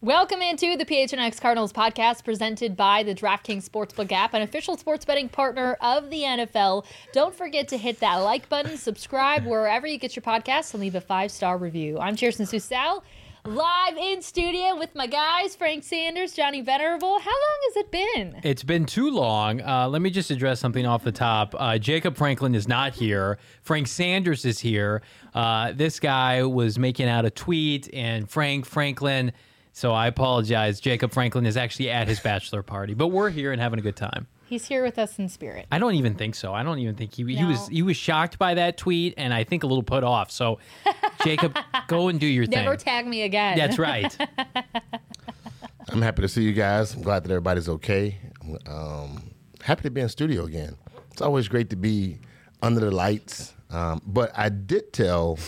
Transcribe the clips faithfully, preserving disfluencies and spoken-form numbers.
Welcome into the P H N X Cardinals podcast presented by the DraftKings Sportsbook app, an official sports betting partner of the N F L. Don't forget to hit that like button, subscribe wherever you get your podcasts, and leave a five-star review. I'm Cheerson Susal, live in studio with my guys, Frank Sanders, Johnny Venerable. How long has it been? It's been too long. Uh, let me just address something off the top. Uh, Jacob Franklin is not here. Frank Sanders is here. Uh, this guy was making out a tweet, and Frank Franklin... So I apologize. Jacob Franklin is actually at his bachelor party, but we're here and having a good time. He's here with us in spirit. I don't even think so. I don't even think he No. he was he was shocked by that tweet, and I think a little put off. So, Jacob, go and do your thing. Never tag me again. That's right. I'm happy to see you guys. I'm glad that everybody's okay. Um, happy to be in studio again. It's always great to be under the lights. Um, but I did tell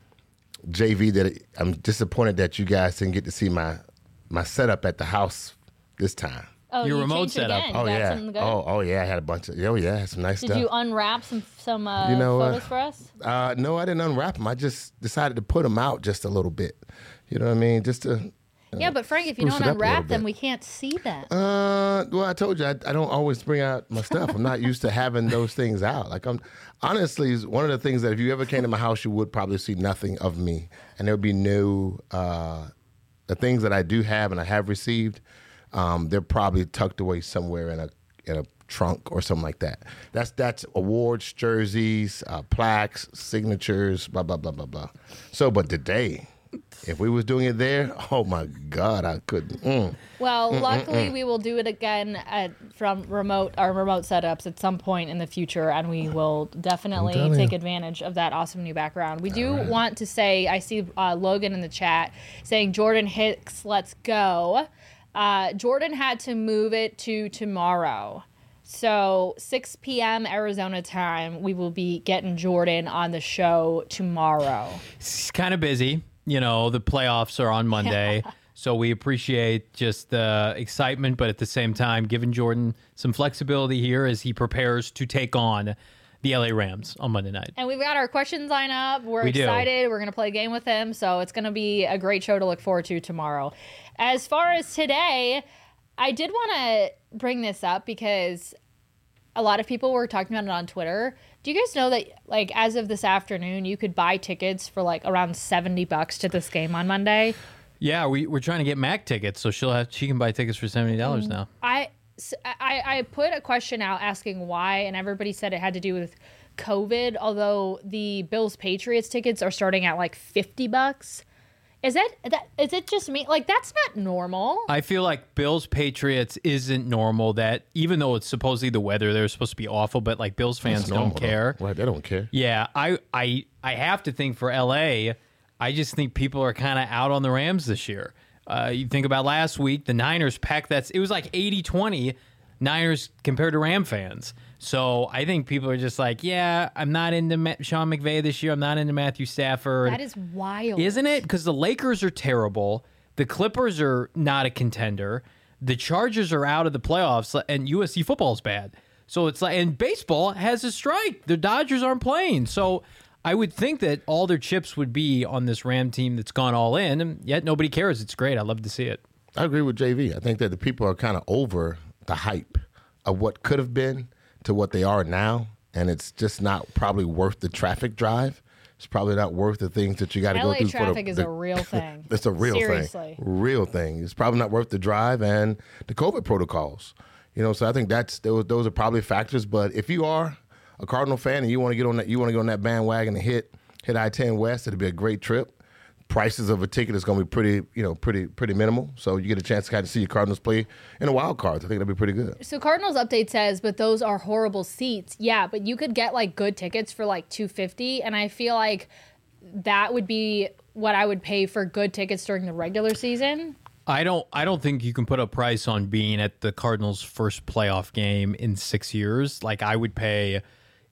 J V that I'm disappointed that you guys didn't get to see my my setup at the house this time. Oh, Your you remote changed it setup. again. Oh You got yeah. something good? Oh oh yeah. I had a bunch of. Oh yeah. I had some nice Did stuff. you unwrap some some uh, You know, photos uh, for us? uh, no, I didn't unwrap them. I just decided to put them out just a little bit. You know what I mean? Just to. Yeah, but Frank, if you spruce don't it up a unwrap little them, bit. we can't see them. Uh, well, I told you I, I don't always bring out my stuff. I'm not used to having those things out. Like I'm, honestly, is one of the things that if you ever came to my house, you would probably see nothing of me, and there would be no uh, the things that I do have and I have received. Um, they're probably tucked away somewhere in a in a trunk or something like that. That's that's awards, jerseys, uh, plaques, signatures, blah blah blah blah blah. So, but today. If we was doing it there, oh my God, I couldn't. Mm. Well, luckily we will do it again at, from remote our remote setups at some point in the future, and we will definitely telling take you. advantage of that awesome new background. We do want to say, I see uh, Logan in the chat saying Jordan Hicks, let's go. Uh, Jordan had to move it to tomorrow. So six p.m. Arizona time, we will be getting Jordan on the show tomorrow. It's kind of busy. You know, the playoffs are on Monday, so we appreciate just the excitement, but at the same time, giving Jordan some flexibility here as he prepares to take on the L A Rams on Monday night. And we've got our questions lined up. We're We do. excited. We're going to play a game with him, so it's going to be a great show to look forward to tomorrow. As far as today, I did want to bring this up because a lot of people were talking about it on Twitter. Do you guys know that, like, as of this afternoon, you could buy tickets for, like, around seventy bucks to this game on Monday? Yeah, we, we're trying to get Mac tickets, so she'll have she can buy tickets for seventy dollars now. I, s- I, I put a question out asking why, and everybody said it had to do with COVID, although the Bills-Patriots tickets are starting at, like, fifty bucks. Is that, that is it just me? Like, that's not normal. I feel like Bills Patriots isn't normal. That even though it's supposedly the weather, they're supposed to be awful, but like Bills fans It's normal, don't care. though. Right, they don't care. Yeah, I I I have to think for L A, I just think people are kind of out on the Rams this year. Uh, you think about last week, the Niners packed that's it was like eighty twenty Niners compared to Ram fans. So I think people are just like, yeah, I'm not into Ma- Sean McVay this year. I'm not into Matthew Stafford. That is wild. Isn't it? Because the Lakers are terrible. The Clippers are not a contender. The Chargers are out of the playoffs, and U S C football is bad. So it's like, and baseball has a strike. The Dodgers aren't playing. So I would think that all their chips would be on this Ram team that's gone all in, and yet nobody cares. It's great. I love to see it. I agree with J V. I think that the people are kind of over the hype of what could have been to what they are now, and it's just not probably worth the traffic drive. It's probably not worth the things that you got to go L A through. traffic for the, is the, a real thing. It's a real Seriously. thing. Real thing. It's probably not worth the drive and the COVID protocols. You know, so I think that's those those are probably factors. But if you are a Cardinal fan and you want to get on that, you want to get on that bandwagon and hit hit I ten West, it'll be a great trip. Prices of a ticket is going to be pretty, you know, pretty pretty minimal. So you get a chance to kind of see your Cardinals play in a wild card. I think that'll be pretty good. So Cardinals update says, but those are horrible seats. Yeah, but you could get like good tickets for like two hundred fifty dollars, and I feel like that would be what I would pay for good tickets during the regular season. I don't I don't think you can put a price on being at the Cardinals' first playoff game in six years. Like I would pay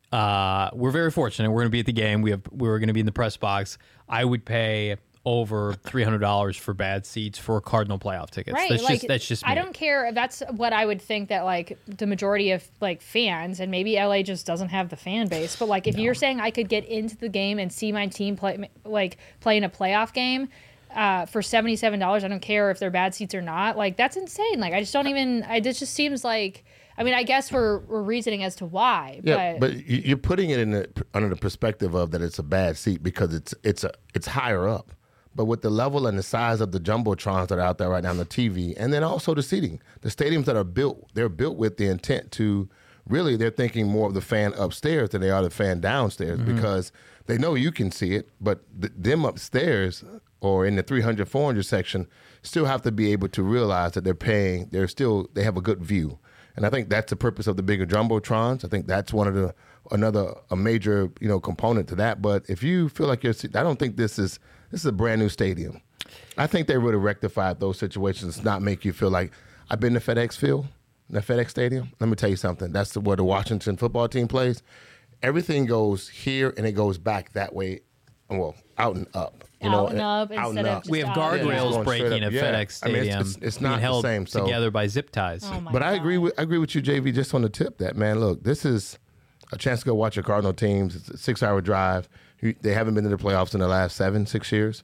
uh, we're very fortunate. We're going to be at the game. We have we're going to be in the press box. I would pay over three hundred dollars for bad seats for Cardinal playoff tickets. Right. That's like, just that's just me. I don't care if that's what I would think that like the majority of like fans, and maybe L A just doesn't have the fan base, but like if no. you're saying I could get into the game and see my team play like play in a playoff game, uh, for seventy-seven dollars. I don't care if they're bad seats or not. Like, that's insane. Like, I just don't even, I, this just seems like, I mean, I guess we're, we're reasoning as to why. Yeah, but, but you- you're putting it in the, under the perspective of that it's a bad seat because it's it's a it's higher up. But with the level and the size of the jumbotrons that are out there right now on the T V, and then also the seating, the stadiums that are built, they're built with the intent to really, they're thinking more of the fan upstairs than they are the fan downstairs Mm-hmm. because they know you can see it, but th- them upstairs or in the three hundred, four hundred section still have to be able to realize that they're paying, they're still, they have a good view. And I think that's the purpose of the bigger jumbotrons. I think that's one of the another a major you know component to that. But if you feel like you're, I don't think this is this is a brand new stadium. I think they would have rectified those situations, not make you feel like I've been to FedEx Field, the FedEx Stadium. Let me tell you something. That's the, where the Washington football team plays. Everything goes here and it goes back that way. Well, out and up. You Out know, and up out instead of up. just We have out. guardrails Yeah, it's going breaking straight at up. Yeah. FedEx I mean, it's- Stadium. it's- it's being not the held same, so- together by zip ties. Oh my But I God. agree with I agree with you, J V, just on the tip that, man, look, this is a chance to go watch your Cardinal teams. It's a six-hour drive. You- They haven't been to the playoffs in the last seven, six years.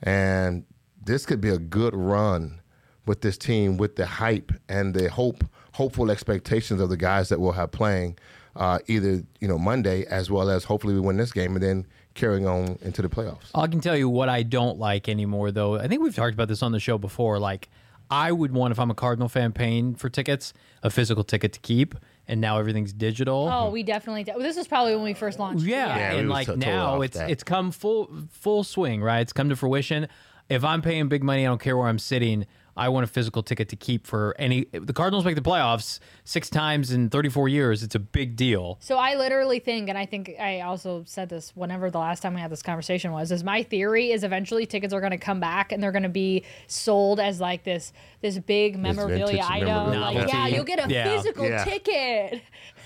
And this could be a good run with this team with the hype and the hope, hopeful expectations of the guys that we'll have playing uh, either, you know, Monday as well as hopefully we win this game and then carrying on into the playoffs. I can tell you what I don't like anymore, though. I think we've talked about this on the show before. Like, I would want, if I'm a Cardinal fan paying for tickets, a physical ticket to keep, and now everything's digital. Oh, we definitely. Well, this was probably when we first launched. Yeah, Yeah, we and was like t- totally now off it's that. it's come full full swing, right? It's come to fruition. If I'm paying big money, I don't care where I'm sitting. I want a physical ticket to keep for any. The Cardinals make the playoffs six times in thirty-four years. It's a big deal. So I literally think, and I think I also said this whenever the last time we had this conversation was, is my theory is eventually tickets are going to come back and they're going to be sold as like this this big memorabilia vintage item. memorabilia. Like, Novelty. yeah, you'll get a Yeah. physical Yeah. ticket.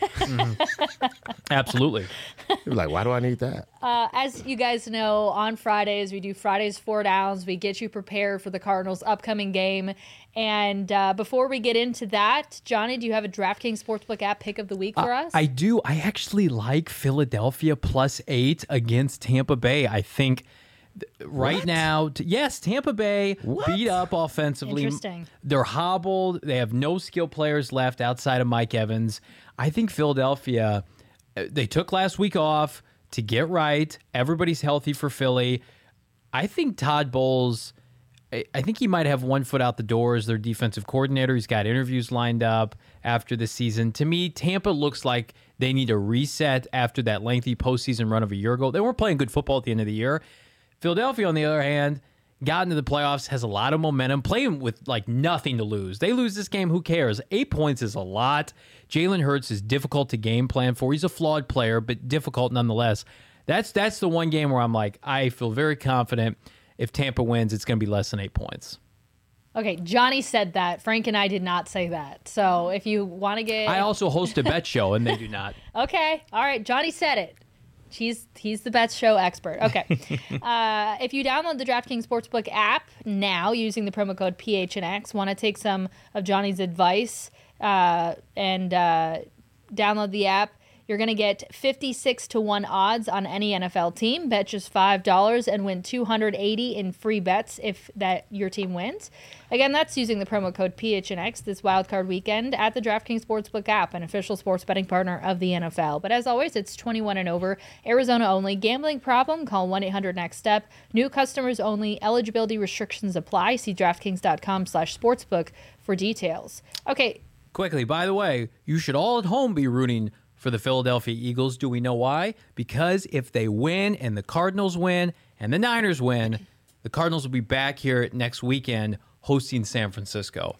Absolutely. You're like, why do I need that? Uh, as you guys know, on Fridays, we do Fridays Four Downs. We get you prepared for the Cardinals' upcoming game. And uh, before we get into that, Johnny, do you have a DraftKings Sportsbook app pick of the week for us? I do. I actually like Philadelphia plus eight against Tampa Bay. I think th- right What? now, t- yes, Tampa Bay beat up offensively. Interesting. They're hobbled. They have no skill players left outside of Mike Evans. I think Philadelphia, uh, they took last week off to get right. Everybody's healthy for Philly. I think Todd Bowles, I I think he might have one foot out the door as their defensive coordinator. He's got interviews lined up after the season. To me, Tampa looks like they need a reset after that lengthy postseason run of a year ago. They weren't playing good football at the end of the year. Philadelphia, on the other hand, got into the playoffs, has a lot of momentum, playing with like nothing to lose. They lose this game, who cares? Eight points is a lot. Jalen Hurts is difficult to game plan for. He's a flawed player, but difficult nonetheless. That's that's the one game where I'm like, I feel very confident if Tampa wins, it's going to be less than eight points. Okay, Johnny said that. Frank and I did not say that. So if you want to get, I also host a bet show, and they do not. okay, all right, Johnny said it. He's he's the best show expert. Okay, uh, if you download the DraftKings Sportsbook app now using the promo code P H N X, want to take some of Johnny's advice uh, and uh, download the app. You're going to get fifty-six to one odds on any N F L team. Bet just five dollars and win two hundred eighty in free bets if that your team wins. Again, that's using the promo code P H N X this wildcard weekend at the DraftKings Sportsbook app, an official sports betting partner of the N F L. But as always, it's twenty-one and over, Arizona only. Gambling problem? Call one eight hundred next step. New customers only. Eligibility restrictions apply. See DraftKings.com slash sportsbook for details. Okay, Quickly, by the way, you should all at home be rooting for the Philadelphia Eagles. Do we know why? Because if they win and the Cardinals win and the Niners win, the Cardinals will be back here next weekend hosting San Francisco.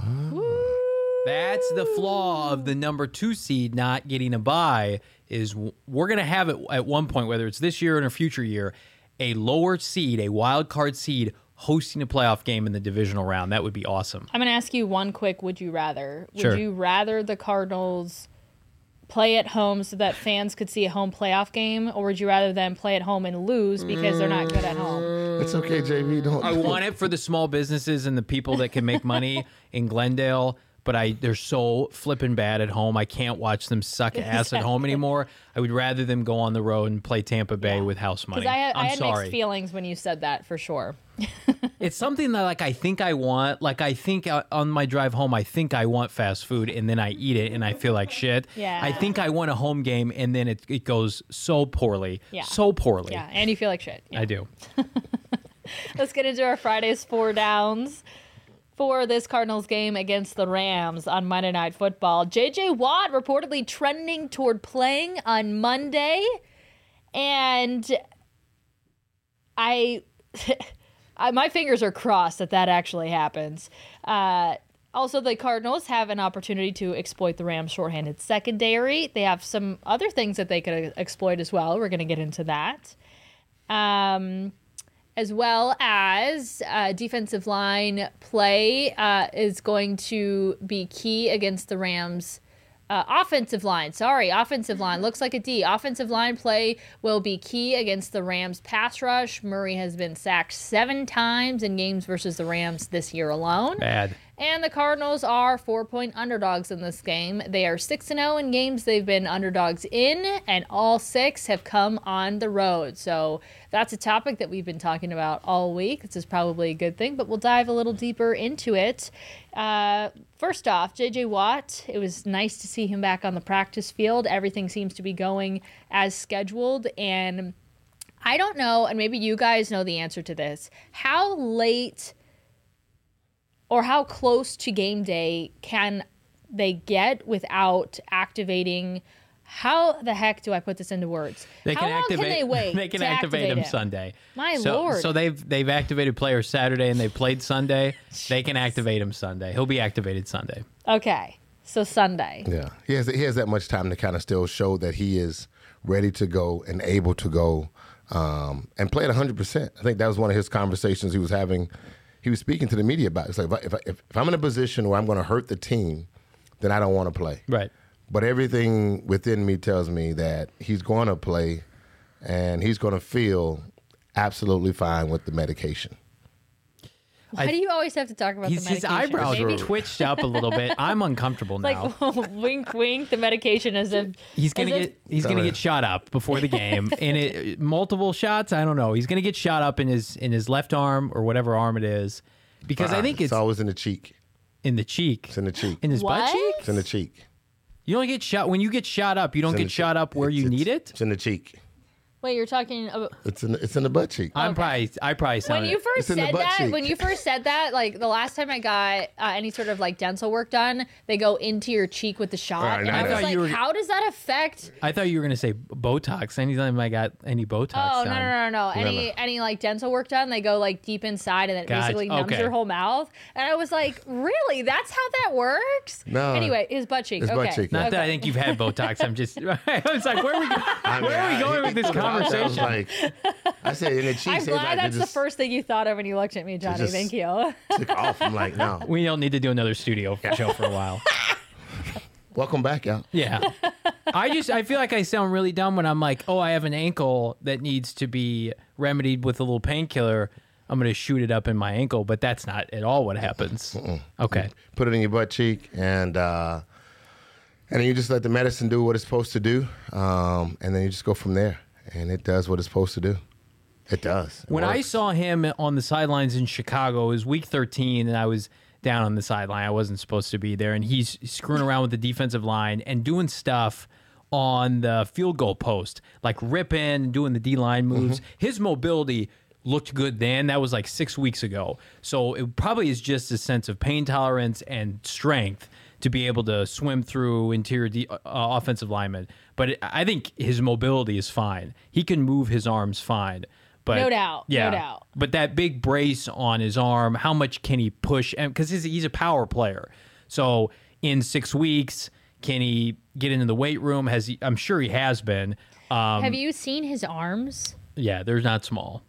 That's the flaw of the number two seed not getting a bye, is we're going to have it at one point, whether it's this year or in a future year, a lower seed, a wild card seed hosting a playoff game in the divisional round. That would be awesome. I'm going to ask you one quick would you rather. Would Sure. you rather the Cardinals play at home so that fans could see a home playoff game, or would you rather them play at home and lose because they're not good at home? It's okay, J V. Don't. I want it for the small businesses and the people that can make money in Glendale, but I they're so flippin' bad at home. I can't watch them suck ass at home anymore. I would rather them go on the road and play Tampa Bay with house money. Because I, had- I'm I had sorry. mixed feelings when you said that, for sure. It's something that like I think I want. Like I think uh, on my drive home, I think I want fast food, and then I eat it, and I feel like shit. Yeah. I think I want a home game, and then it it goes so poorly, Yeah. so poorly. Yeah, and you feel like shit. Yeah. I do. Let's get into our Friday's four downs for this Cardinals game against the Rams on Monday Night Football. J J Watt reportedly trending toward playing on Monday, and I, I my fingers are crossed that that actually happens. Uh, also, the Cardinals have an opportunity to exploit the Rams' shorthanded secondary. They have some other things that they could exploit as well. We're going to get into that. Um... As well as uh, defensive line play uh, is going to be key against the Rams. Uh, offensive line, sorry, offensive line. Looks like a D. Offensive line play will be key against the Rams pass rush. Murray has been sacked seven times in games versus the Rams this year alone. Bad. And the Cardinals are four-point underdogs in this game. They are six and oh in games they've been underdogs in, and all six have come on the road. So that's a topic that we've been talking about all week. This is probably a good thing, but we'll dive a little deeper into it. Uh, first off, J J Watt, it was nice to see him back on the practice field. Everything seems to be going as scheduled, and I don't know, and maybe you guys know the answer to this. How late or how close to game day can they get without activating? How the heck do I put this into words? They how can long activate. can they wait? They can to activate, activate him him Sunday. My so, Lord. So they've they've activated players Saturday and they played Sunday. They can activate him Sunday. He'll be activated Sunday. Okay, so Sunday. Yeah, he has he has that much time to kind of still show that he is ready to go and able to go um, and play at one hundred percent. I think that was one of his conversations he was having. He was speaking to the media about it. It's like, if, I, if, I, if, if I'm in a position where I'm going to hurt the team, then I don't want to play. Right. But everything within me tells me that he's going to play and he's going to feel absolutely fine with the medication. Why I- do you always have to talk about He's, the his medication? eyebrows Maybe are twitched up a little bit. I'm uncomfortable now. like wink, wink. The medication as if He's gonna as if- get he's gonna Sorry. get shot up before the game, and it multiple shots. I don't know. He's gonna get shot up in his in his left arm or whatever arm it is, because I think it's, it's always in the cheek. in the cheek, It's in the cheek. in his butt What? cheek. It's in the cheek. You don't get shot when you get shot up. You don't It's in get the shot cheek. up where It's- you it's- need it. It's in the cheek. Wait, you're talking about It's in the, it's in the butt cheek. I'm probably I probably when sounded. you first It's in the said butt that. cheek. When you first said that, like the last time I got uh, any sort of like dental work done, they go into your cheek with the shot, Right, and no, I no. was I thought like, you were- how does that affect? I thought you were gonna say Botox. Anytime I got any Botox Oh no done. no no no! Any no. any like dental work done, they go like deep inside, and it Gotcha. basically numbs Okay. your whole mouth. And I was like, really? That's how that works? No. Anyway, his butt cheek. His okay. butt cheek, yeah. Not Okay. that I think you've had Botox. I'm just. I was like, where are we? Go- I mean, where are we I- going with this I was conversation? like, I said in the cheek. I'm so glad like, that's it the just first thing you thought of when you looked at me, Johnny. just- Thank you. took off. I'm like, no. We don't need to do another studio show for a while. Welcome back, y'all. Yeah. I just I feel like I sound really dumb when I'm like, oh, I have an ankle that needs to be remedied with a little painkiller. I'm going to shoot it up in my ankle, but that's not at all what happens. Okay. Put it in your butt cheek, and uh, and then you just let the medicine do what it's supposed to do, um, and then you just go from there, and it does what it's supposed to do. It does. It When I works. saw him on the sidelines in Chicago, it was week thirteen, and I was down on the sideline. I wasn't supposed to be there, and he's screwing around with the defensive line and doing stuff on the field goal post, like ripping, doing the D-line moves. His mobility looked good then. That was like six weeks ago. So it probably is just a sense of pain tolerance and strength to be able to swim through interior de- uh, offensive linemen. But it, I think his mobility is fine. He can move his arms fine. But No doubt, no yeah, doubt. But that big brace on his arm, how much can he push? And because he's, he's a power player, so in six weeks, can he get into the weight room? Has he? I'm sure he has been. Um, Have you seen his arms? yeah, they're not small.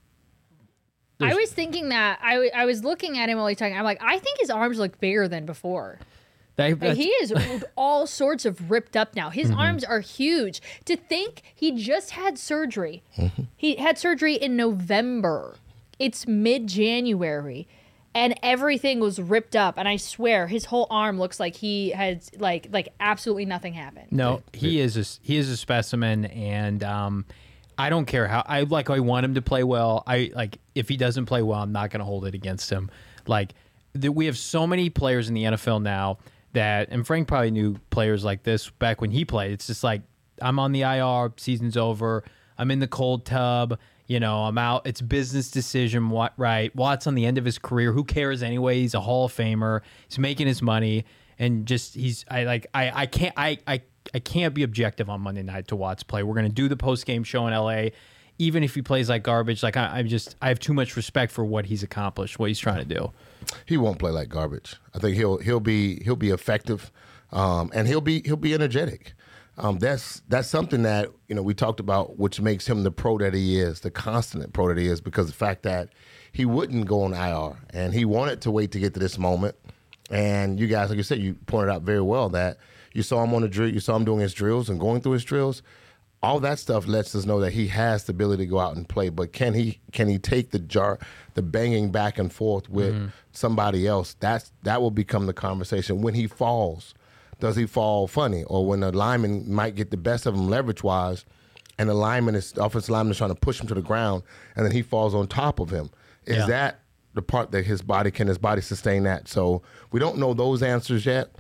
I was thinking that. I, w- I was looking at him while he's talking. I'm like, I think his arms look bigger than before. They, Like, that's- he is all sorts of ripped up now. His arms are huge. To think he just had surgery. He had surgery in November. It's mid-January. and everything was ripped up. And I swear, his whole arm looks like he had like like absolutely nothing happened. No, he is a, he is a specimen, and um, I don't care how I like. I want him to play well. I like if he doesn't play well, I'm not going to hold it against him. Like the, we have so many players in the N F L now that, and Frank probably knew players like this back when he played. It's just like, I'm on the I R, season's over, I'm in the cold tub, you know, I'm out. It's business decision, what right? Watt's on the end of his career. Who cares anyway? He's a Hall of Famer. He's making his money, and just he's I like I I can't I I I can't be objective on Monday night to Watt's play. We're gonna do the post game show in L A. Even if he plays like garbage, like I, I'm just I have too much respect for what he's accomplished, what he's trying to do. He won't play like garbage. I think he'll he'll be he'll be effective, um, and he'll be he'll be energetic. Um, that's that's something that you know we talked about, which makes him the pro that he is, the constant pro that he is, because the fact that he wouldn't go on I R and he wanted to wait to get to this moment. And you guys, like you said, you pointed out very well that you saw him on the drill, you saw him doing his drills and going through his drills. All that stuff lets us know that he has the ability to go out and play, but can he can he take the jar, the banging back and forth with mm-hmm. somebody else? That's that will become the conversation when he falls. Does he fall funny, or when the lineman might get the best of him leverage wise, and the lineman is the offensive lineman is trying to push him to the ground, and then he falls on top of him? Is yeah. that the part that his body can his body sustain that? So we don't know those answers yet.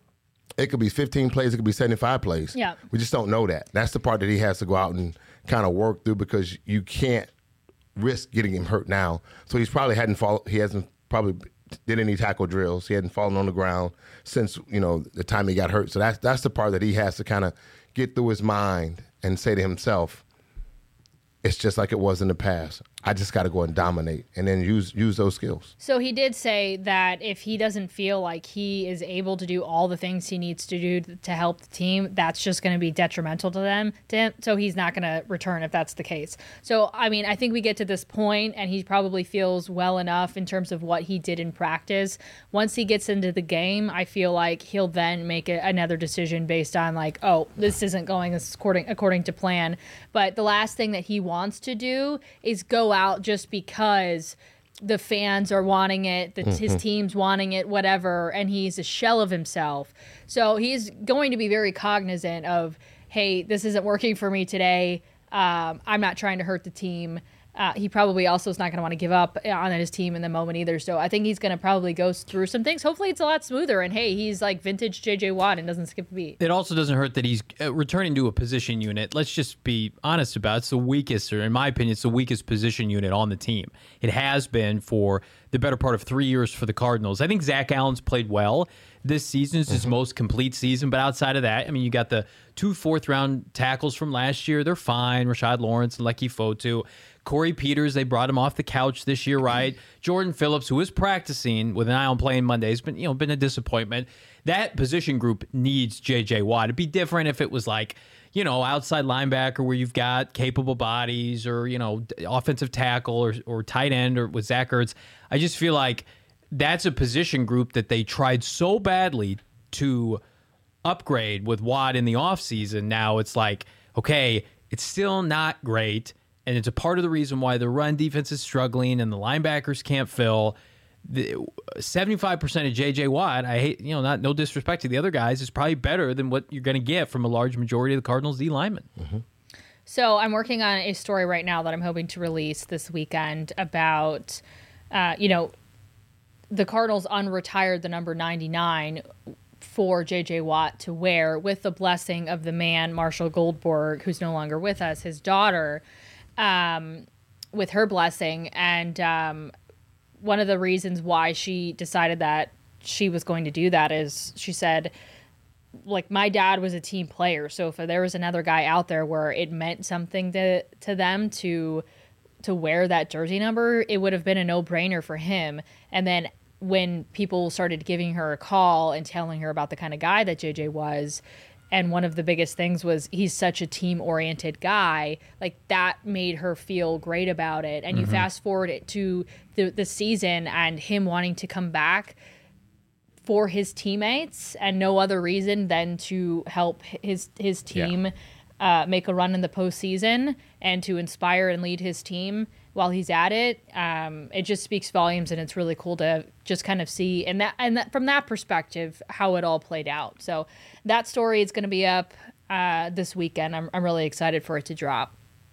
It could be fifteen plays, it could be seventy-five plays. Yeah. We just don't know that. That's the part that he has to go out and kind of work through, because you can't risk getting him hurt now. So he's probably hadn't fall, he hasn't probably did any tackle drills. He hadn't fallen on the ground since, you know, the time he got hurt. So that's that's the part that he has to kind of get through his mind and say to himself, it's just like it was in the past. I just got to go and dominate and then use use those skills. So he did say that if he doesn't feel like he is able to do all the things he needs to do to help the team, that's just going to be detrimental to them. To him. So he's not going to return if that's the case. So, I mean, I think we get to this point and he probably feels well enough in terms of what he did in practice. Once he gets into the game, I feel like he'll then make a, another decision based on like, oh, this isn't going according, according to plan. But the last thing that he wants to do is go out just because the fans are wanting it, the, mm-hmm. his team's wanting it, whatever, and he's a shell of himself. So he's going to be very cognizant of, hey, this isn't working for me today. Um, I'm not trying to hurt the team. Uh, he probably also is not going to want to give up on his team in the moment either. So I think he's going to probably go through some things. Hopefully it's a lot smoother. And, hey, he's like vintage J J Watt and doesn't skip a beat. It also doesn't hurt that he's uh, returning to a position unit. Let's just be honest about it. It's the weakest, or in my opinion, it's the weakest position unit on the team. It has been for the better part of three years for the Cardinals. I think Zach Allen's played well this season. It's his mm-hmm. most complete season. But outside of that, I mean, you got the two fourth-round tackles from last year. They're fine. Rashad Lawrence and Lecky Fotu. Corey Peters, they brought him off the couch this year, right? Jordan Phillips, who is practicing with an eye on playing Mondays, but you know, been a disappointment. That position group needs J J Watt. It'd be different if it was like, you know, outside linebacker where you've got capable bodies, or, you know, offensive tackle, or or tight end, or with Zach Ertz. I just feel like that's a position group that they tried so badly to upgrade with Watt in the offseason. Now it's like, okay, it's still not great. And it's a part of the reason why the run defense is struggling and the linebackers can't fill. The seventy-five percent of J J Watt, I hate, you know, not no disrespect to the other guys, is probably better than what you're going to get from a large majority of the Cardinals D linemen. Mm-hmm. So I'm working on a story right now that I'm hoping to release this weekend about, uh, you know, the Cardinals unretired the number ninety-nine for J J Watt to wear with the blessing of the man, Marshall Goldberg, who's no longer with us, his daughter. Um, with her blessing. And um, one of the reasons why she decided that she was going to do that is she said, like, my dad was a team player. So if there was another guy out there where it meant something to, to them to, to wear that jersey number, it would have been a no-brainer for him. And then when people started giving her a call and telling her about the kind of guy that J J was, and one of the biggest things was he's such a team-oriented guy, like that made her feel great about it. And mm-hmm. you fast forward it to the, the season and him wanting to come back for his teammates and no other reason than to help his his team yeah. uh, make a run in the postseason and to inspire and lead his team while he's at it. Um, it just speaks volumes, and it's really cool to just kind of see and that and that, from that perspective how it all played out. So that story is going to be up uh, this weekend. I'm I'm really excited for it to drop.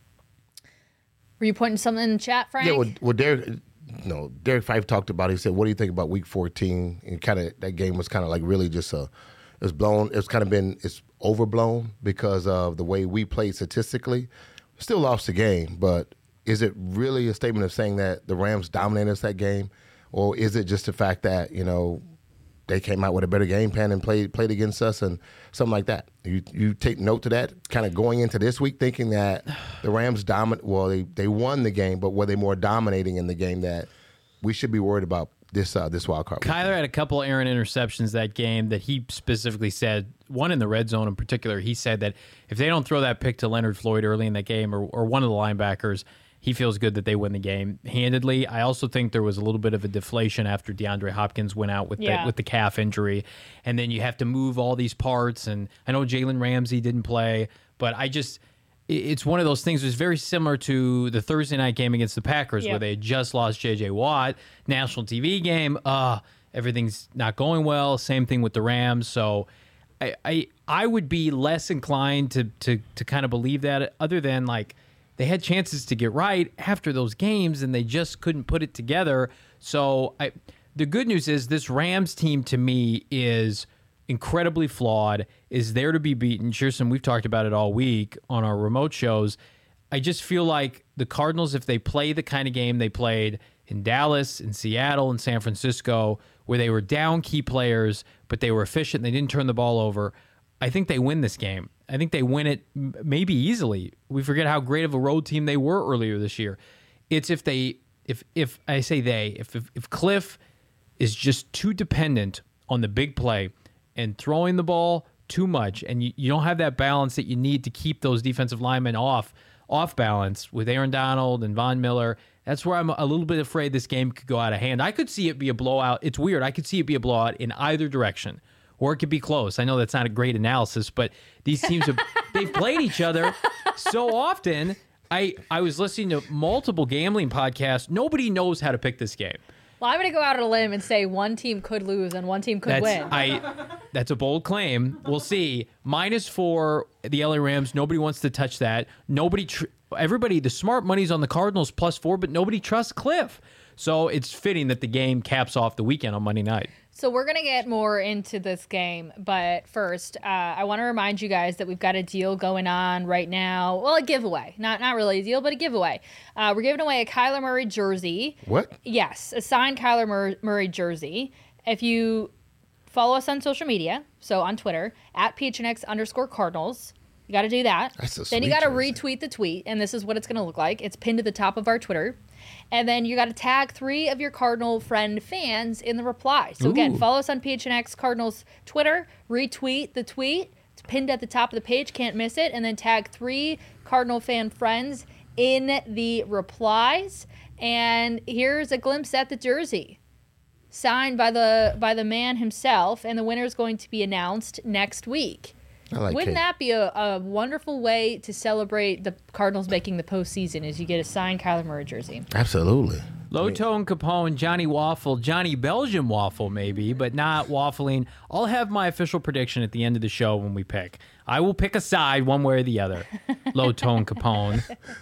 Were you pointing something in the chat, Frank? Yeah, well, well Derek, no, Derek Fife talked about it. He said, what do you think about week fourteen? And kind of that game was kind of like really just a, it was blown, it's kind of been, it's overblown because of the way we played statistically. Still lost the game, but is it really a statement of saying that the Rams dominated us that game? Or is it just the fact that, you know, they came out with a better game plan and played played against us and something like that? You you take note to that, kind of going into this week thinking that the Rams dominate. Well, they, they won the game, but were they more dominating in the game that we should be worried about this uh, this wild card week? Kyler had a couple of errant interceptions that game that he specifically said, one in the red zone in particular, he said that if they don't throw that pick to Leonard Floyd early in the game or, or one of the linebackers, he feels good that they win the game handedly. I also think there was a little bit of a deflation after DeAndre Hopkins went out with Yeah. the, with the calf injury, and then you have to move all these parts. And I know Jalen Ramsey didn't play, but I just it- it's one of those things. It was very similar to the Thursday night game against the Packers, Yep. where they had just lost J J Watt, national T V game. Uh, everything's not going well. Same thing with the Rams. So I I, I would be less inclined to to to kind of believe that, other than like, they had chances to get right after those games, and they just couldn't put it together. So I, the good news is this Rams team, to me, is incredibly flawed, is there to be beaten. Shearson, we've talked about it all week on our remote shows. I just feel like the Cardinals, if they play the kind of game they played in Dallas, in Seattle, in San Francisco, where they were down key players, but they were efficient, they didn't turn the ball over, I think they win this game. I think they win it m- maybe easily. We forget how great of a road team they were earlier this year. It's if they, if if I say they, if if, if Cliff is just too dependent on the big play and throwing the ball too much, and you, you don't have that balance that you need to keep those defensive linemen off off balance with Aaron Donald and Von Miller. That's where I'm a little bit afraid this game could go out of hand. I could see it be a blowout. It's weird. I could see it be a blowout in either direction. Or it could be close. I know that's not a great analysis, but these teams have they've played each other so often. I, I was listening to multiple gambling podcasts. Nobody knows how to pick this game. Well, I'm going to go out on a limb and say one team could lose and one team could That's win. I. That's a bold claim. We'll see. Minus four, the L A Rams. Nobody wants to touch that. Nobody. Tr- everybody. The smart money's on the Cardinals plus four, but nobody trusts Cliff. So it's fitting that the game caps off the weekend on Monday night. So we're going to get more into this game, but first, uh, I want to remind you guys that we've got a deal going on right now. Well, a giveaway. Not not really a deal, but a giveaway. Uh, we're giving away a Kyler Murray jersey. What? Yes, a signed Kyler Mur- Murray jersey. If you follow us on social media, so on Twitter, at P H N X underscore Cardinals, you got to do that. That's a then you sweet got to jersey. retweet the tweet, and this is what it's going to look like. It's pinned to the top of our Twitter. And then you got to tag three of your Cardinal friend fans in the reply. So again, Ooh. follow us on P H N X Cardinals Twitter, retweet the tweet. It's pinned at the top of the page, can't miss it. And then tag three Cardinal fan friends in the replies. And here's a glimpse at the jersey, signed by the by the man himself. And the winner is going to be announced next week. I like Wouldn't cake. that be a, a wonderful way to celebrate the Cardinals making the postseason? Is you get a signed Kyler Murray jersey? Absolutely. Low Tone Capone, Johnny Waffle, Johnny Belgian Waffle maybe, but not waffling. I'll have my official prediction at the end of the show when we pick. I will pick a side one way or the other. Low Tone Capone.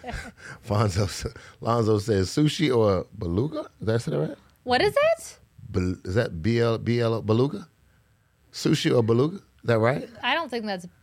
Fonzo, Lonzo says sushi or beluga. Is that right? What is it? Bel- is that B L B L beluga? Sushi or beluga? Is that right? I don't think that's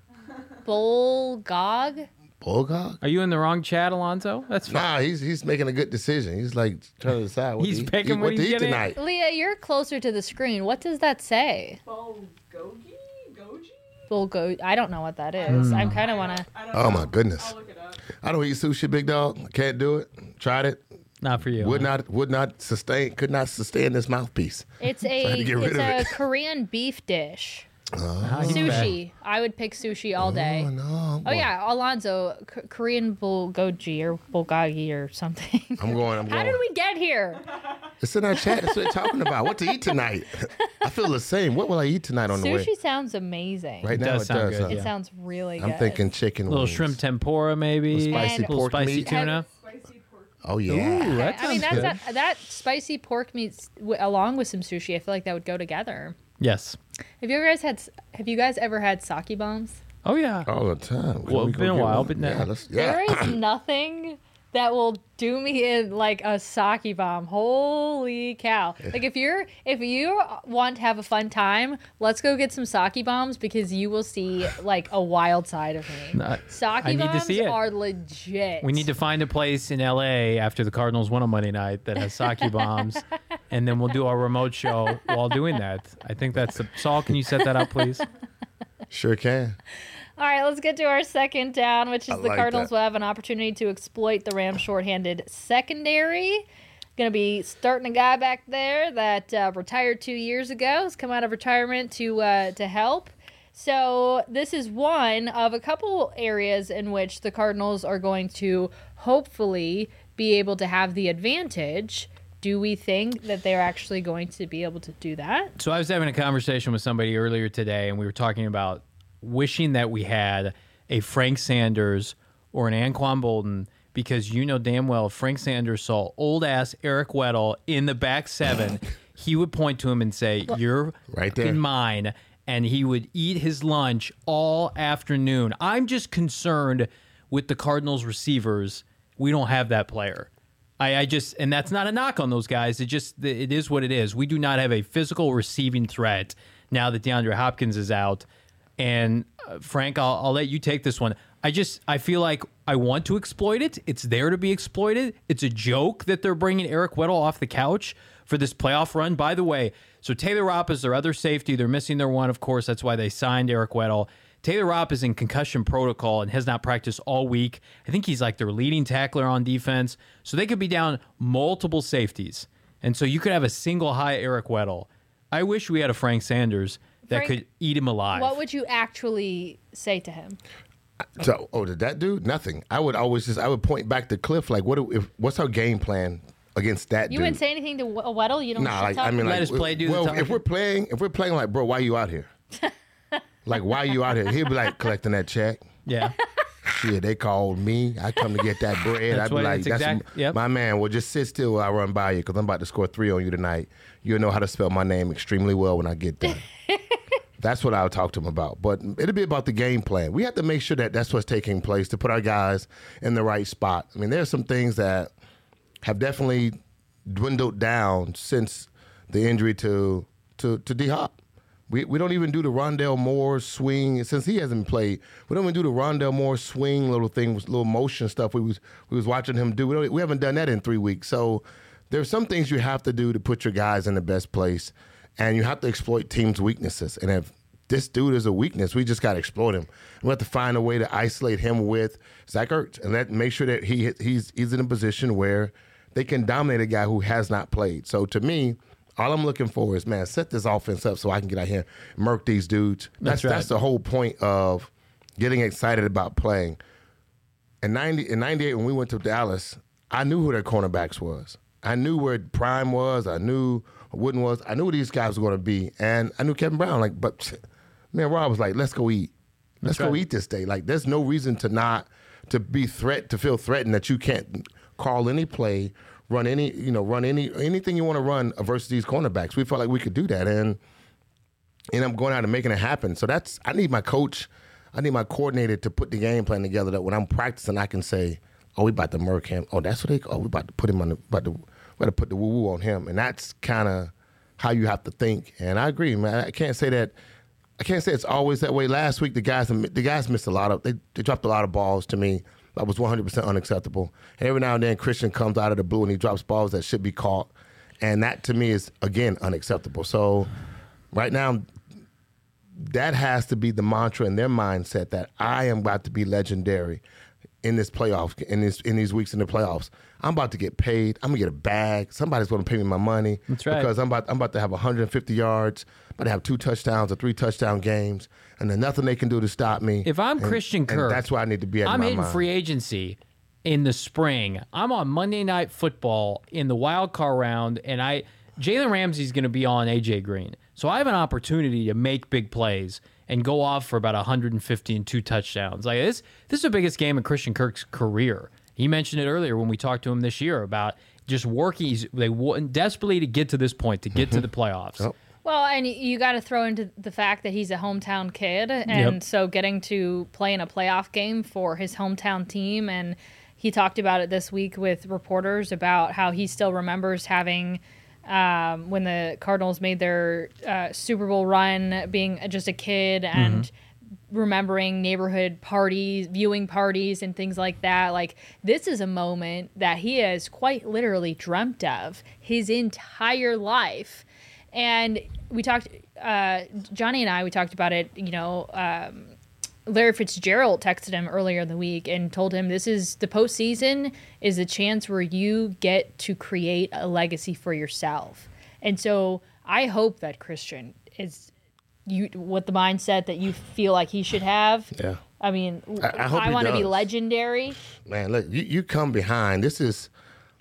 Bulgog. Bulgog? Are you in the wrong chat, Alonzo? That's fine. Nah, he's he's making a good decision. He's like trying to decide what He's to eat, picking eat, what what he's to eat getting. tonight. Leah, you're closer to the screen. What does that say? Bulgogi? Goji? Bulgo. I don't know what that is. I kind of want to. I don't Oh know. my goodness. I'll look it up. I don't eat sushi, big dog. I can't do it. Tried it. Not for you. Would huh? not would not sustain could not sustain this mouthpiece. It's Trying a to get rid it's of a it. Korean beef dish. Ah, he's back. Sushi. I would pick sushi all day. Oh no. Oh yeah, Alonzo, K- Korean bulgogi or bulgogi or something. I'm going, I'm How going. did we get here? It's in our chat. That's what they're talking about. What to eat tonight? I feel the same. What will I eat tonight on the way? Sushi sounds amazing. Right It now does it sound does. good, huh? It yeah. sounds really I'm good. thinking chicken A little wings. shrimp tempura maybe. Little spicy And- little pork spicy meat. tuna. Spicy pork. Oh yeah. Ooh, that I mean, sounds that's good. that, that spicy pork meat w- along with some sushi. I feel like that would go together. Yes. Have you guys had? Have you guys ever had sake bombs? Oh yeah. All the time. Can Well, we it's go been a get while, one? but now- yeah, let's, yeah. There is nothing that will do me in like a sake bomb. Holy cow. Like if you're if you want to have a fun time, let's go get some sake bombs because you will see like a wild side of me. No, Sake I need to bombs see it. are legit. We need to find a place in L A after the Cardinals win on Monday night that has sake bombs, and then we'll do our remote show while doing that. I think that's the Saul. Can you set that up, please? Sure can. All right, let's get to our second down, which is I the like Cardinals that. will have an opportunity to exploit the Rams' shorthanded secondary. Going to be starting a guy back there that uh, retired two years ago. Has come out of retirement to uh, to help. So this is one of a couple areas in which the Cardinals are going to hopefully be able to have the advantage. Do we think that they're actually going to be able to do that? So I was having a conversation with somebody earlier today, and we were talking about wishing that we had a Frank Sanders or an Anquan Bolden, because you know damn well if Frank Sanders saw old-ass Eric Weddle in the back seven, he would point to him and say, you're Right there. fucking mine, and he would eat his lunch all afternoon. I'm just concerned with the Cardinals receivers. We don't have that player. I, I just, and that's not a knock on those guys. It just, it is what it is. We do not have a physical receiving threat now that DeAndre Hopkins is out. And uh, Frank, I'll, I'll let you take this one. I just, I feel like I want to exploit it. It's there to be exploited. It's a joke that they're bringing Eric Weddle off the couch for this playoff run. By the way, so Taylor Rapp is their other safety. They're missing their one, of course. That's why they signed Eric Weddle. Taylor Rapp is in concussion protocol and has not practiced all week. I think he's like their leading tackler on defense. So they could be down multiple safeties. And so you could have a single high Eric Weddle. I wish we had a Frank Sanders that Frank, could eat him alive. What would you actually say to him? So, oh, did that do nothing? I would always just, I would point back to Cliff, like, what? Do, if, what's our game plan against that You dude? wouldn't say anything to W- Weddle? You don't Nah, shit like talk I mean, him? like, Let us play, do the well, talking. if we're playing, if we're playing, like, bro, why you out here? Like, why you out here? He'll be like collecting that check. Yeah. Shit, they called me. I come to get that bread. That's I'd be what- like, that's that's exact- yep. my man. Well, just sit still while I run by you because I'm about to score three on you tonight. You'll know how to spell my name extremely well when I get there. That's what I'll talk to him about. But it'll be about the game plan. We have to make sure that that's what's taking place to put our guys in the right spot. I mean, there's some things that have definitely dwindled down since the injury to to to D Hop. We we don't even do the Rondell Moore swing since he hasn't played. We don't even do the Rondell Moore swing little things, little motion stuff we was we was watching him do. We don't, we haven't done that in three weeks. So there's some things you have to do to put your guys in the best place, and you have to exploit teams' weaknesses. And if this dude is a weakness, we just got to exploit him. We have to find a way to isolate him with Zach Ertz and let make sure that he he's he's in a position where they can dominate a guy who has not played. So to me, all I'm looking for is, man, set this offense up so I can get out here and murk these dudes. That's That's right. that's the whole point of getting excited about playing. In ninety in ninety-eight when we went to Dallas, I knew who their cornerbacks was. I knew where Prime was. I knew what Wooden was. I knew who these guys were going to be, and I knew Kevin Brown. Like, but man, Rob was like, "Let's go eat. Let's That's go right. eat this day." Like, there's no reason to not to be threat to feel threatened that you can't call any play, run any you know run any anything you want to run versus these cornerbacks. We felt like we could do that, and and I'm going out and making it happen. So that's I need my coach, I need my coordinator to put the game plan together that when I'm practicing, I can say, "Oh, we about to murk him. Oh, that's what they. Oh, we about to put him on the about to we got to put the woo woo on him." And that's kind of how you have to think. And I agree, man. I can't say that. I can't say it's always that way. Last week, the guys the guys missed a lot of. They, they dropped a lot of balls to me. That was one hundred percent unacceptable. And every now and then, Christian comes out of the blue and he drops balls that should be caught. And that, to me, is, again, unacceptable. So right now, that has to be the mantra in their mindset that I am about to be legendary in this playoff, in this in these weeks in the playoffs. I'm about to get paid. I'm gonna get a bag. Somebody's gonna pay me my money. That's right. Because I'm about I'm about to have one hundred fifty yards. I'm about to have two touchdowns or three touchdown games, and there's nothing they can do to stop me. If I'm And- Christian and Kirk, that's where I need to be at. in I'm my hitting mind. free agency in the spring. I'm on Monday Night Football in the wild card round, and I Jalen Ramsey's going to be on A J Green, so I have an opportunity to make big plays and go off for about one hundred fifty and two touchdowns. Like this, this is the biggest game in Christian Kirk's career, He mentioned it earlier when we talked to him this year about just working. He's, they want desperately to get to this point, to get Mm-hmm. to the playoffs. Yep. Well, and you got to throw into the fact that he's a hometown kid, and Yep. so getting to play in a playoff game for his hometown team, and he talked about it this week with reporters about how he still remembers having um, when the Cardinals made their uh, Super Bowl run, being just a kid and Mm-hmm. remembering neighborhood parties, viewing parties, and things like that. Like, this is a moment that he has quite literally dreamt of his entire life. And we talked, uh, Johnny and I, we talked about it, you know, um, Larry Fitzgerald texted him earlier in the week and told him this is the postseason is a chance where you get to create a legacy for yourself. And so I hope that Christian is you with the mindset that you feel like he should have. Yeah. I mean, I- I hope he want to be does. legendary. Man, look, you, you come behind. This is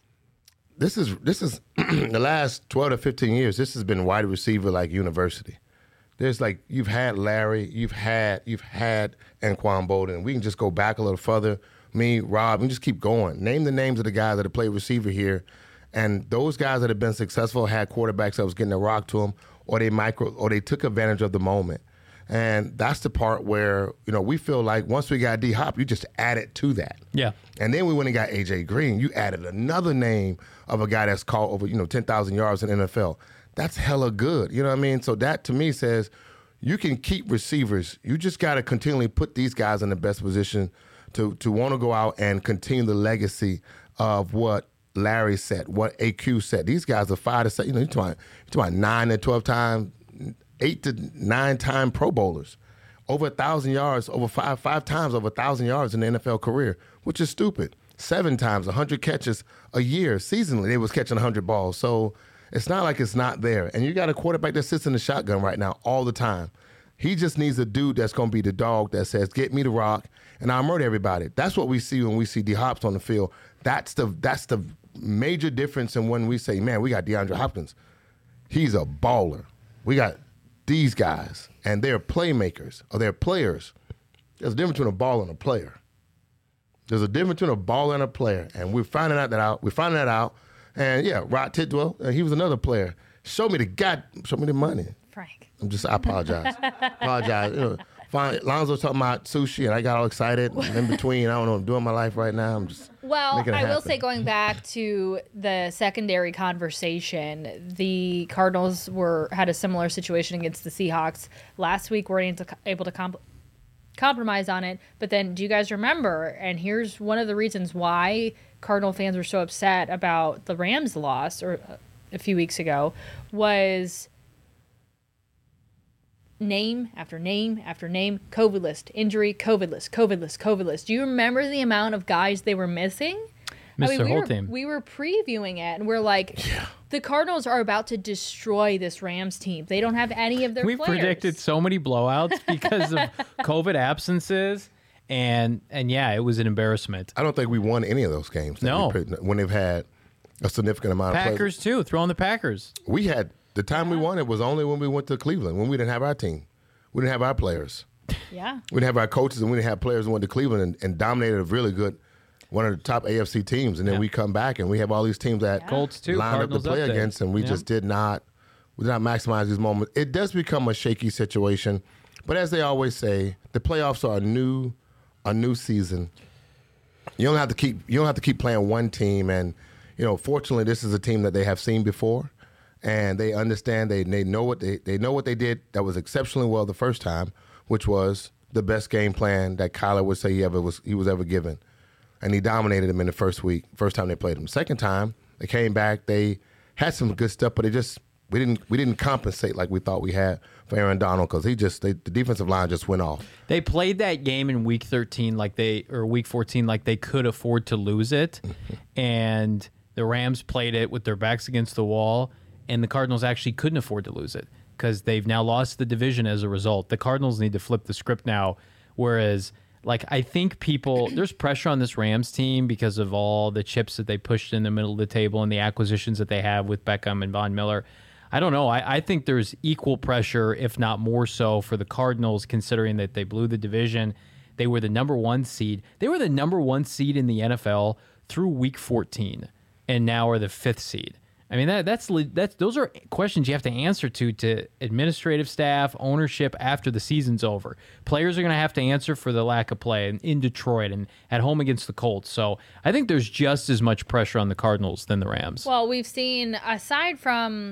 this is this is the last twelve to fifteen years. This has been wide receiver like university. There's like you've had Larry, you've had you've had Anquan Bolden. We can just go back a little further. Me, Rob, and just keep going. Name the names of the guys that have played receiver here, and those guys that have been successful had quarterbacks that was getting a rock to them, or they micro, or they took advantage of the moment. And that's the part where you know we feel like once we got D Hop, you just added to that. Yeah. And then we went and got A J Green. You added another name of a guy that's caught over, you know, ten thousand yards in the N F L. That's hella good. You know what I mean? So that to me says you can keep receivers. You just got to continually put these guys in the best position to to want to go out and continue the legacy of what Larry said, what A Q said. These guys are five to seven, you know, you're talking, you're talking about nine to twelve time, eight to nine time Pro Bowlers. Over a thousand yards, over five five times over a thousand yards in the N F L career, which is stupid. Seven times, a hundred catches a year, seasonally, they was catching a hundred balls. So it's not like it's not there. And you got a quarterback that sits in the shotgun right now all the time. He just needs a dude that's going to be the dog that says, "Get me the rock, and I'll murder everybody." That's what we see when we see D Hops on the field. That's the that's the major difference in when we say, "Man, we got DeAndre Hopkins. He's a baller." We got these guys, and they're playmakers, or they're players. There's a difference between a baller and a player. There's a difference between a baller and a player, and we're finding out that out. We're finding that out, and yeah, Rod Tidwell, uh, he was another player. Show me the God, show me the money. Frank. I'm just, I apologize. apologize. You know, fine. Lonzo's talking about sushi, and I got all excited. In between, I don't know what I'm doing in my life right now. I'm just Well, making it I will happen. say, going back to the secondary conversation, the Cardinals were had a similar situation against the Seahawks last week. We're able to, able to comp- compromise on it, but then do you guys remember? And here's one of the reasons why Cardinal fans were so upset about the Rams' loss, or uh, a few weeks ago, was name after name after name, COVID list, injury, COVID list, COVID list, COVID list. Do you remember the amount of guys they were missing? Missed their we whole were, team. We were previewing it, and we're like, the Cardinals are about to destroy this Rams team. They don't have any of their We players. predicted so many blowouts because of COVID absences, and and yeah, it was an embarrassment. I don't think we won any of those games. that No. we played when they've had a significant amount of players. Packers too, throwing the Packers. We had the time we won it was only when we went to Cleveland, when we didn't have our team. We didn't have our players. Yeah. We didn't have our coaches, and we didn't have players who went to Cleveland and, and dominated a really good, one of the top A F C teams. And then Yeah. we come back and we have all these teams that Colts too, lined Cardinals up to play up there. against, and we Yeah. just did not, we did not maximize these moments. It does become a shaky situation, but as they always say, the playoffs are a new, a new season. You don't have to keep, you don't have to keep playing one team, and you know, fortunately, this is a team that they have seen before. And they understand, they they know what they they know what they did that was exceptionally well the first time, which was the best game plan that Kyler would say he ever was he was ever given, and he dominated them in the first week, first time they played him. Second time they came back, they had some good stuff, but they just we didn't we didn't compensate like we thought we had for Aaron Donald because he just they, the defensive line just went off. They played that game in week thirteen like they or week fourteen like they could afford to lose it, and the Rams played it with their backs against the wall. And the Cardinals actually couldn't afford to lose it because they've now lost the division as a result. The Cardinals need to flip the script now. Whereas, like, I think people, there's pressure on this Rams team because of all the chips that they pushed in the middle of the table and the acquisitions that they have with Beckham and Von Miller. I don't know. I, I think there's equal pressure, if not more so, for the Cardinals, considering that they blew the division. they were the number one seed. They were the number one seed in the N F L through week fourteen, and now are the fifth seed. I mean, that that's that's those are questions you have to answer to to administrative staff, ownership after the season's over. Players are going to have to answer for the lack of play in, in Detroit and at home against the Colts. So I think there's just as much pressure on the Cardinals than the Rams. Well, we've seen, aside from,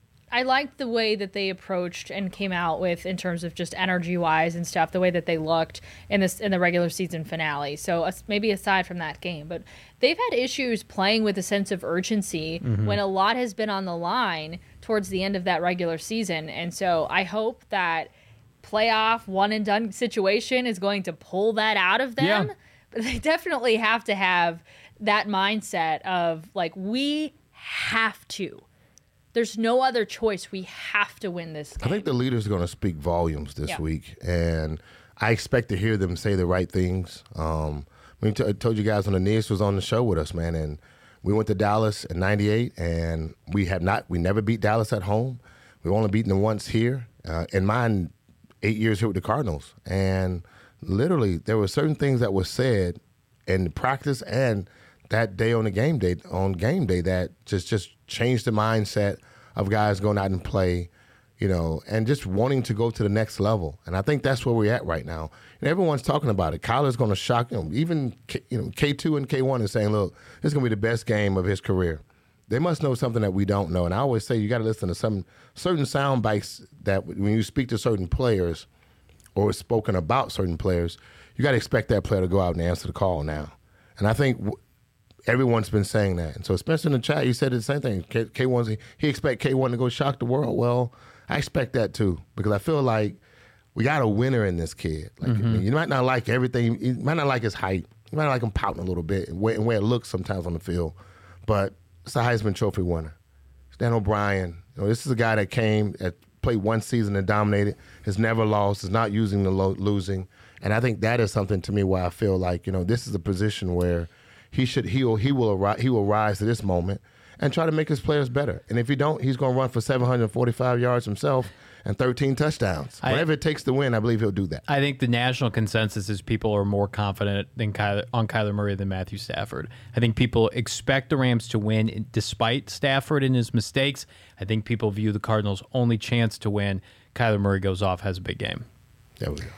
I liked the way that they approached and came out with in terms of just energy-wise and stuff, the way that they looked in this in the regular season finale. So uh, maybe aside from that game, but they've had issues playing with a sense of urgency mm-hmm. when a lot has been on the line towards the end of that regular season. And so I hope that playoff one-and-done situation is going to pull that out of them. Yeah. But they definitely have to have that mindset of, like, we have to. There's no other choice. We have to win this game. I think the leaders are going to speak volumes this yeah. week, and I expect to hear them say the right things. Um, I t- told you guys when Aeneas was on the show with us, man, and we went to Dallas in ninety-eight, and we have not, we never beat Dallas at home. We've only beaten them once here. Uh, in mine, eight years here with the Cardinals, and literally there were certain things that were said in practice and that day on the game day on game day that just just changed the mindset of guys going out and play, you know, and just wanting to go to the next level. And I think that's where we're at right now. And everyone's talking about it. Kyler's going to shock, you know, even K, you know K two and K one is saying, look, this is going to be the best game of his career. They must know something that we don't know. And I always say you got to listen to some certain sound bites that when you speak to certain players or spoken about certain players, you got to expect that player to go out and answer the call now. And I think w- everyone's been saying that. And so Spencer in the chat, he said the same thing. K- K1's, he expect K one to go shock the world. Well, I expect that too, because I feel like we got a winner in this kid. Like mm-hmm. I mean, you might not like everything. You might not like his height. You might not like him pouting a little bit and where, and where it looks sometimes on the field. But it's a Heisman Trophy winner. Stan O'Brien. You know, this is a guy that came, that played one season and dominated, has never lost, is not using the lo- losing. And I think that is something to me where I feel like, you know, this is a position where he should he will he will arise, he will rise to this moment and try to make his players better. And if he don't, he's going to run for seven hundred forty-five yards himself and thirteen touchdowns. I, Whatever it takes to win, I believe he'll do that. I think the national consensus is people are more confident than Kyler, on Kyler Murray than Matthew Stafford. I think people expect the Rams to win despite Stafford and his mistakes. I think people view the Cardinals' only chance to win. Kyler Murray goes off, has a big game. There we go.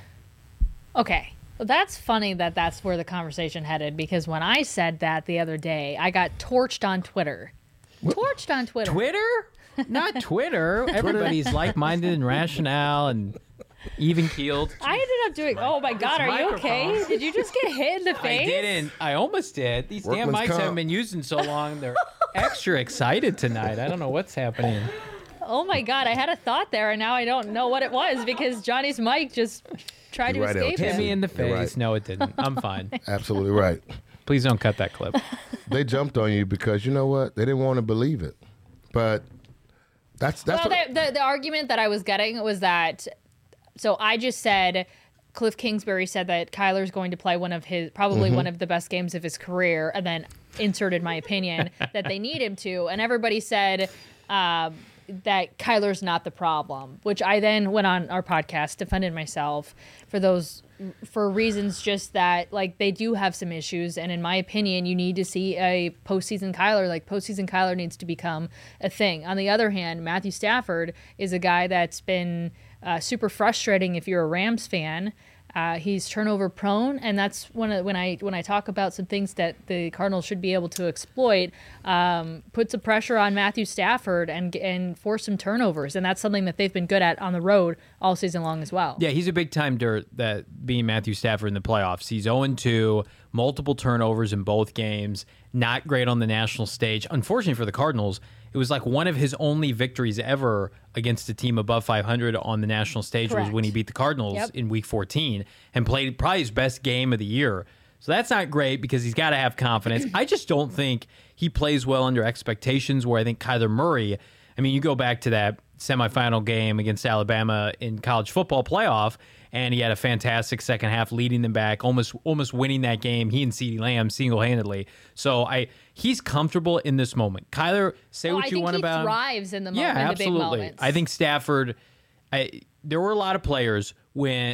Okay. Well, that's funny that that's where the conversation headed, because when I said that the other day, I got torched on Twitter. What? Torched on Twitter. Twitter? Not Twitter. Everybody's like-minded and rationale and even-keeled. I ended up doing, oh my God, are you okay? Did you just get hit in the face? I didn't. I almost did. These damn Workman's mics comp. haven't been used in so long. They're extra excited tonight. I don't know what's happening. Oh my God, I had a thought there, and now I don't know what it was because Johnny's mic just tried You're to right, escape L T. Hit him. me in the You're face. right. No, it didn't. I'm fine. Absolutely right. Please don't cut that clip. They jumped on you because, you know what, they didn't want to believe it. But that's that's well, what, the, the, the argument that I was getting was that, so I just said, Cliff Kingsbury said that Kyler's going to play one of his, probably Mm-hmm. one of the best games of his career, and then inserted my opinion that they need him to, and everybody said um, that Kyler's not the problem, which I then went on our podcast, defended myself for those, for reasons just that, like, they do have some issues, and in my opinion, you need to see a postseason Kyler. Like, postseason Kyler needs to become a thing. On the other hand, Matthew Stafford is a guy that's been uh, super frustrating if you're a Rams fan. Uh, he's turnover prone, and that's one of, when I when I talk about some things that the Cardinals should be able to exploit. Um, put some pressure on Matthew Stafford and and force some turnovers, and that's something that they've been good at on the road all season long as well. Yeah, he's a big time dirt that being Matthew Stafford in the playoffs. He's oh and two, multiple turnovers in both games, not great on the national stage. Unfortunately for the Cardinals, it was like one of his only victories ever against a team above five hundred on the national stage. Correct. Was when he beat the Cardinals Yep. in week fourteen and played probably his best game of the year. So that's not great because he's got to have confidence. I just don't think he plays well under expectations, where I think Kyler Murray, I mean, you go back to that semifinal game against Alabama in college football playoff, and he had a fantastic second half leading them back, almost almost winning that game, he and CeeDee Lamb single-handedly. So I he's comfortable in this moment. Kyler, say Oh, what I you think want he about him. thrives in the, mo- Yeah, in the big absolutely. moments. I think Stafford, I, there were a lot of players when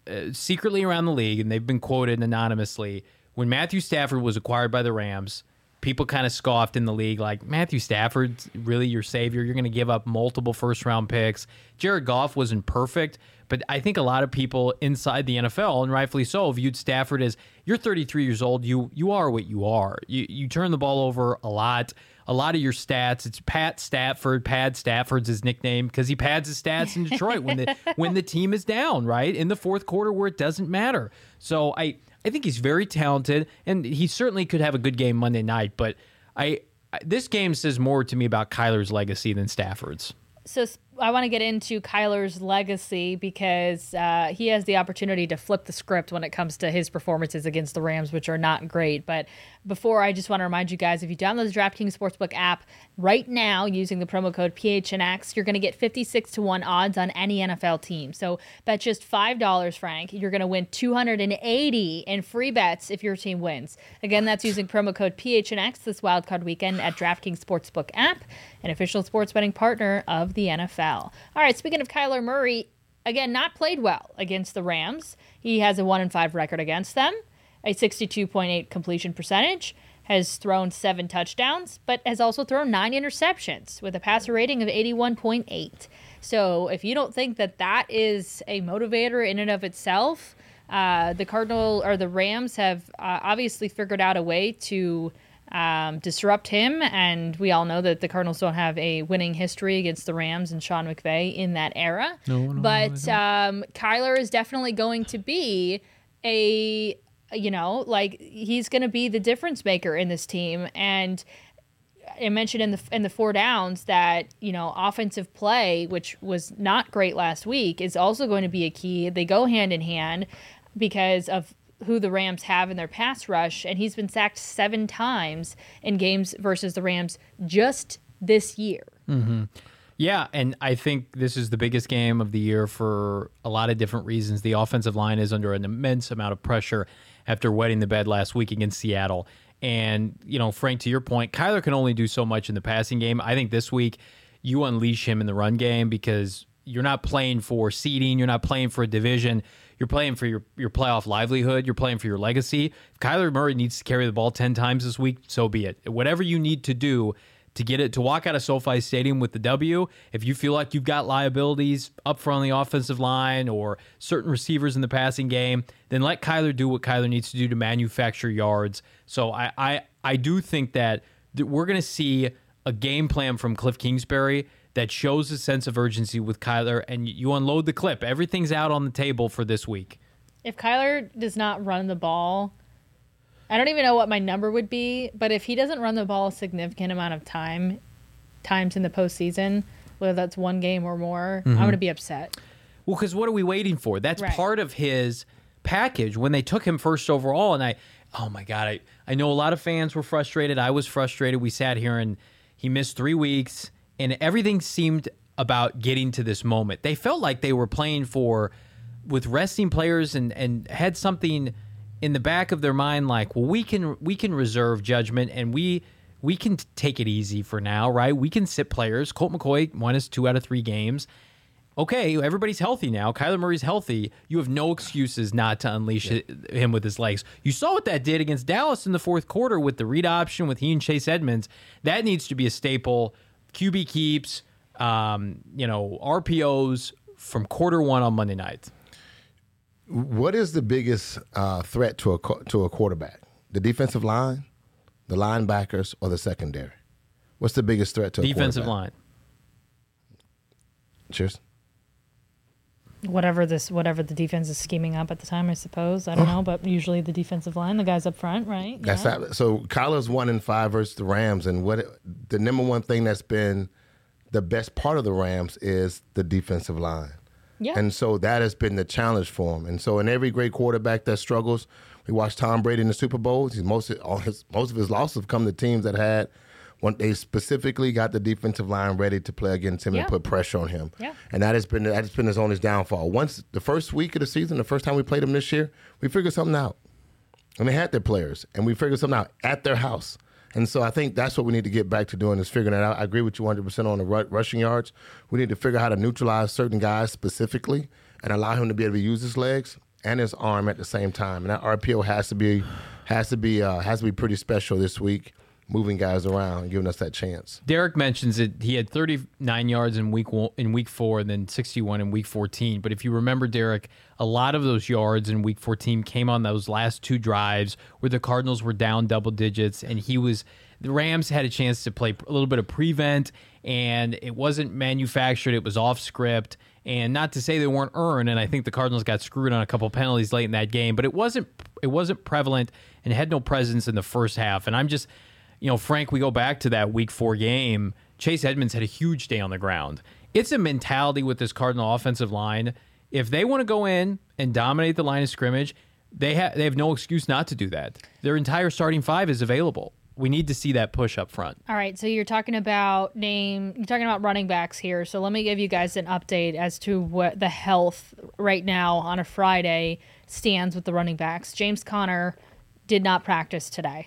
uh, secretly around the league, and they've been quoted anonymously, when Matthew Stafford was acquired by the Rams, people kind of scoffed in the league like, Matthew Stafford's really your savior? You're going to give up multiple first-round picks. Jared Goff wasn't perfect, but I think a lot of people inside the N F L, and rightfully so, viewed Stafford as, you're thirty-three years old, you you are what you are. You, you turn the ball over a lot. A lot of your stats, it's Pat Stafford. Pad Stafford's his nickname because he pads his stats in Detroit when the when the team is down, right? In the fourth quarter where it doesn't matter. So I, I think he's very talented, and he certainly could have a good game Monday night, but I, I this game says more to me about Kyler's legacy than Stafford's. So I want to get into Kyler's legacy because uh, he has the opportunity to flip the script when it comes to his performances against the Rams, which are not great. But before, I just want to remind you guys, if you download the DraftKings Sportsbook app right now using the promo code P H N X, you're going to get fifty-six to one odds on any N F L team. So bet just five dollars, Frank. You're going to win two hundred eighty in free bets if your team wins. Again, that's using promo code P H N X this wildcard weekend at DraftKings Sportsbook app, an official sports betting partner of the N F L. All right, speaking of Kyler Murray, again, not played well against the Rams. He has a one and five record against them, a sixty-two point eight completion percentage, has thrown seven touchdowns, but has also thrown nine interceptions with a passer rating of eighty-one point eight. So if you don't think that that is a motivator in and of itself, uh, the Cardinal or the Rams have uh, obviously figured out a way to Um, disrupt him, and we all know that the Cardinals don't have a winning history against the Rams and Sean McVay in that era. No, no, but um, Kyler is definitely going to be a, you know, like he's going to be the difference maker in this team. And I mentioned in the in the four downs that, you know, offensive play, which was not great last week, is also going to be a key. They go hand in hand because of who the Rams have in their pass rush, and he's been sacked seven times in games versus the Rams just this year. Mm-hmm. Yeah, and I think this is the biggest game of the year for a lot of different reasons. The offensive line is under an immense amount of pressure after wetting the bed last week against Seattle. And, you know, Frank, to your point, Kyler can only do so much in the passing game. I think this week you unleash him in the run game because you're not playing for seeding. You're not playing for a division. You're playing for your, your playoff livelihood. You're playing for your legacy. If Kyler Murray needs to carry the ball ten times this week, so be it. Whatever you need to do to get it to walk out of SoFi Stadium with the W, if you feel like you've got liabilities up front on the offensive line or certain receivers in the passing game, then let Kyler do what Kyler needs to do to manufacture yards. So I I, I do think that we're going to see a game plan from Cliff Kingsbury that shows a sense of urgency with Kyler, and you unload the clip. Everything's out on the table for this week. If Kyler does not run the ball, I don't even know what my number would be, but if he doesn't run the ball a significant amount of time, times in the postseason, whether that's one game or more, mm-hmm. I'm going to be upset. Well, because what are we waiting for? That's right. Part of his package when they took him first overall, and I, oh my God, I, I know a lot of fans were frustrated. I was frustrated. We sat here, and he missed three weeks. And everything seemed about getting to this moment. They felt like they were playing for, with resting players, and, and had something in the back of their mind like, well, we can we can reserve judgment, and we we can take it easy for now, right? We can sit players. Colt McCoy won us two out of three games. Okay, everybody's healthy now. Kyler Murray's healthy. You have no excuses not to unleash yeah. him with his legs. You saw what that did against Dallas in the fourth quarter with the read option with he and Chase Edmonds. That needs to be a staple. Q B keeps, um, you know, R P Os from quarter one on Monday night. What is the biggest uh, threat to a to a quarterback? The defensive line, the linebackers, or the secondary? What's the biggest threat to a defensive quarterback? Defensive line. Cheers. Whatever this, whatever the defense is scheming up at the time, I suppose. I don't know, but usually the defensive line, the guys up front, right? That's yeah. not, so. Kyler's one in five versus the Rams, and what the number one thing that's been the best part of the Rams is the defensive line. Yeah. And so that has been the challenge for him. And so in every great quarterback that struggles, we watched Tom Brady in the Super Bowls. He's most of, all his most of his losses have come to teams that had. When they specifically got the defensive line ready to play against him yeah. and put pressure on him. Yeah. And that has been that has been his only downfall. Once the first week of the season, the first time we played them this year, we figured something out. And they had their players, and we figured something out at their house. And so I think that's what we need to get back to doing is figuring that out. I agree with you one hundred percent on the rushing yards. We need to figure out how to neutralize certain guys specifically and allow him to be able to use his legs. and his arm at the same time. And that R P O has to be has to be uh, has to be pretty special this week, moving guys around and giving us that chance. Derek mentions that he had thirty-nine yards in week one, in week four, and then sixty-one in week fourteen. But if you remember, Derek, a lot of those yards in week fourteen came on those last two drives where the Cardinals were down double digits, and he was the Rams had a chance to play a little bit of prevent, and it wasn't manufactured; it was off script. And not to say they weren't earned, and I think the Cardinals got screwed on a couple penalties late in that game, but it wasn't it wasn't prevalent and had no presence in the first half. And I'm just. You know, Frank, we go back to that week four game. Chase Edmonds had a huge day on the ground. It's a mentality with this Cardinal offensive line. If they want to go in and dominate the line of scrimmage, they, ha- they have no excuse not to do that. Their entire starting five is available. We need to see that push up front. All right, so you're talking about name, you're talking about running backs here. So let me give you guys an update as to what the health right now on a Friday stands with the running backs. James Conner did not practice today.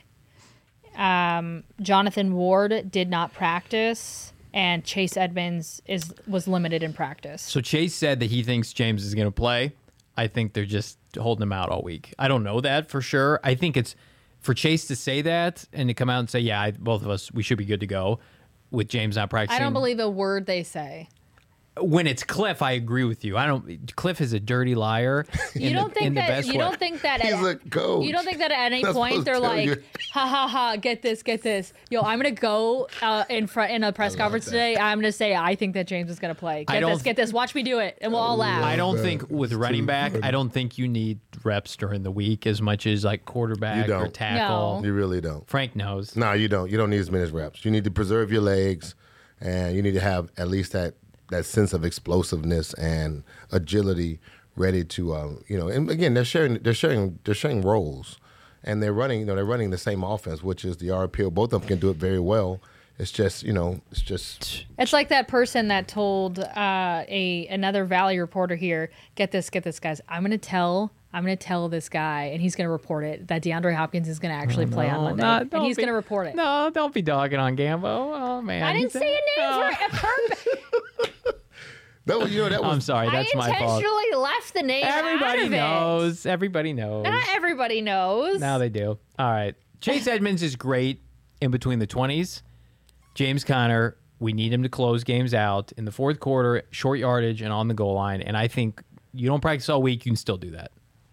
Um, Jonathan Ward did not practice, and Chase Edmonds is was limited in practice. So Chase said that he thinks James is going to play. I think they're just holding him out all week. I don't know that for sure. I think it's for Chase to say that and to come out and say, yeah, I, both of us, we should be good to go with James not practicing. I don't believe a word they say. When it's Cliff, I agree with you. I don't. Cliff is a dirty liar. You don't the, think in the that best you way. don't think that He's at, a coach. you don't think that at any That's point supposed they're to tell like, you. ha ha ha, get this, get this. Yo, I'm gonna go uh, in front in a press conference that. today. I'm gonna say I think that James is gonna play. I Get don't this, get this. Watch me do it, and we'll all laugh. I don't that. think with It's running too back, funny. I don't think you need reps during the week as much as like quarterback You or don't. tackle. No. You really don't. Frank knows. No, you don't. You don't need as many reps. You need to preserve your legs, and you need to have at least that that sense of explosiveness and agility ready to, um, you know. And again, they're sharing, they're sharing, they're sharing roles, and they're running, you know, they're running the same offense, which is the R P O. Both of them can do it very well. It's just, you know, it's just. It's like that person that told uh, a another Valley reporter here, get this, get this, guys. I'm gonna tell, I'm gonna tell this guy, and he's gonna report it that DeAndre Hopkins is gonna actually play on Monday, no, and don't he's be- gonna report it. No, don't be dogging on Gambo. Oh man, I didn't He's- say a name Oh. for a purpose. That was, you know, that was. I'm sorry, that's I my fault. intentionally left the name Everybody out of knows. Everybody knows. it. Not everybody knows. Now they do. All right. Chase Edmonds is great in between the twenties. James Conner, we need him to close games out in the fourth quarter, short yardage, and on the goal line. And I think you don't practice all week, you can still do that.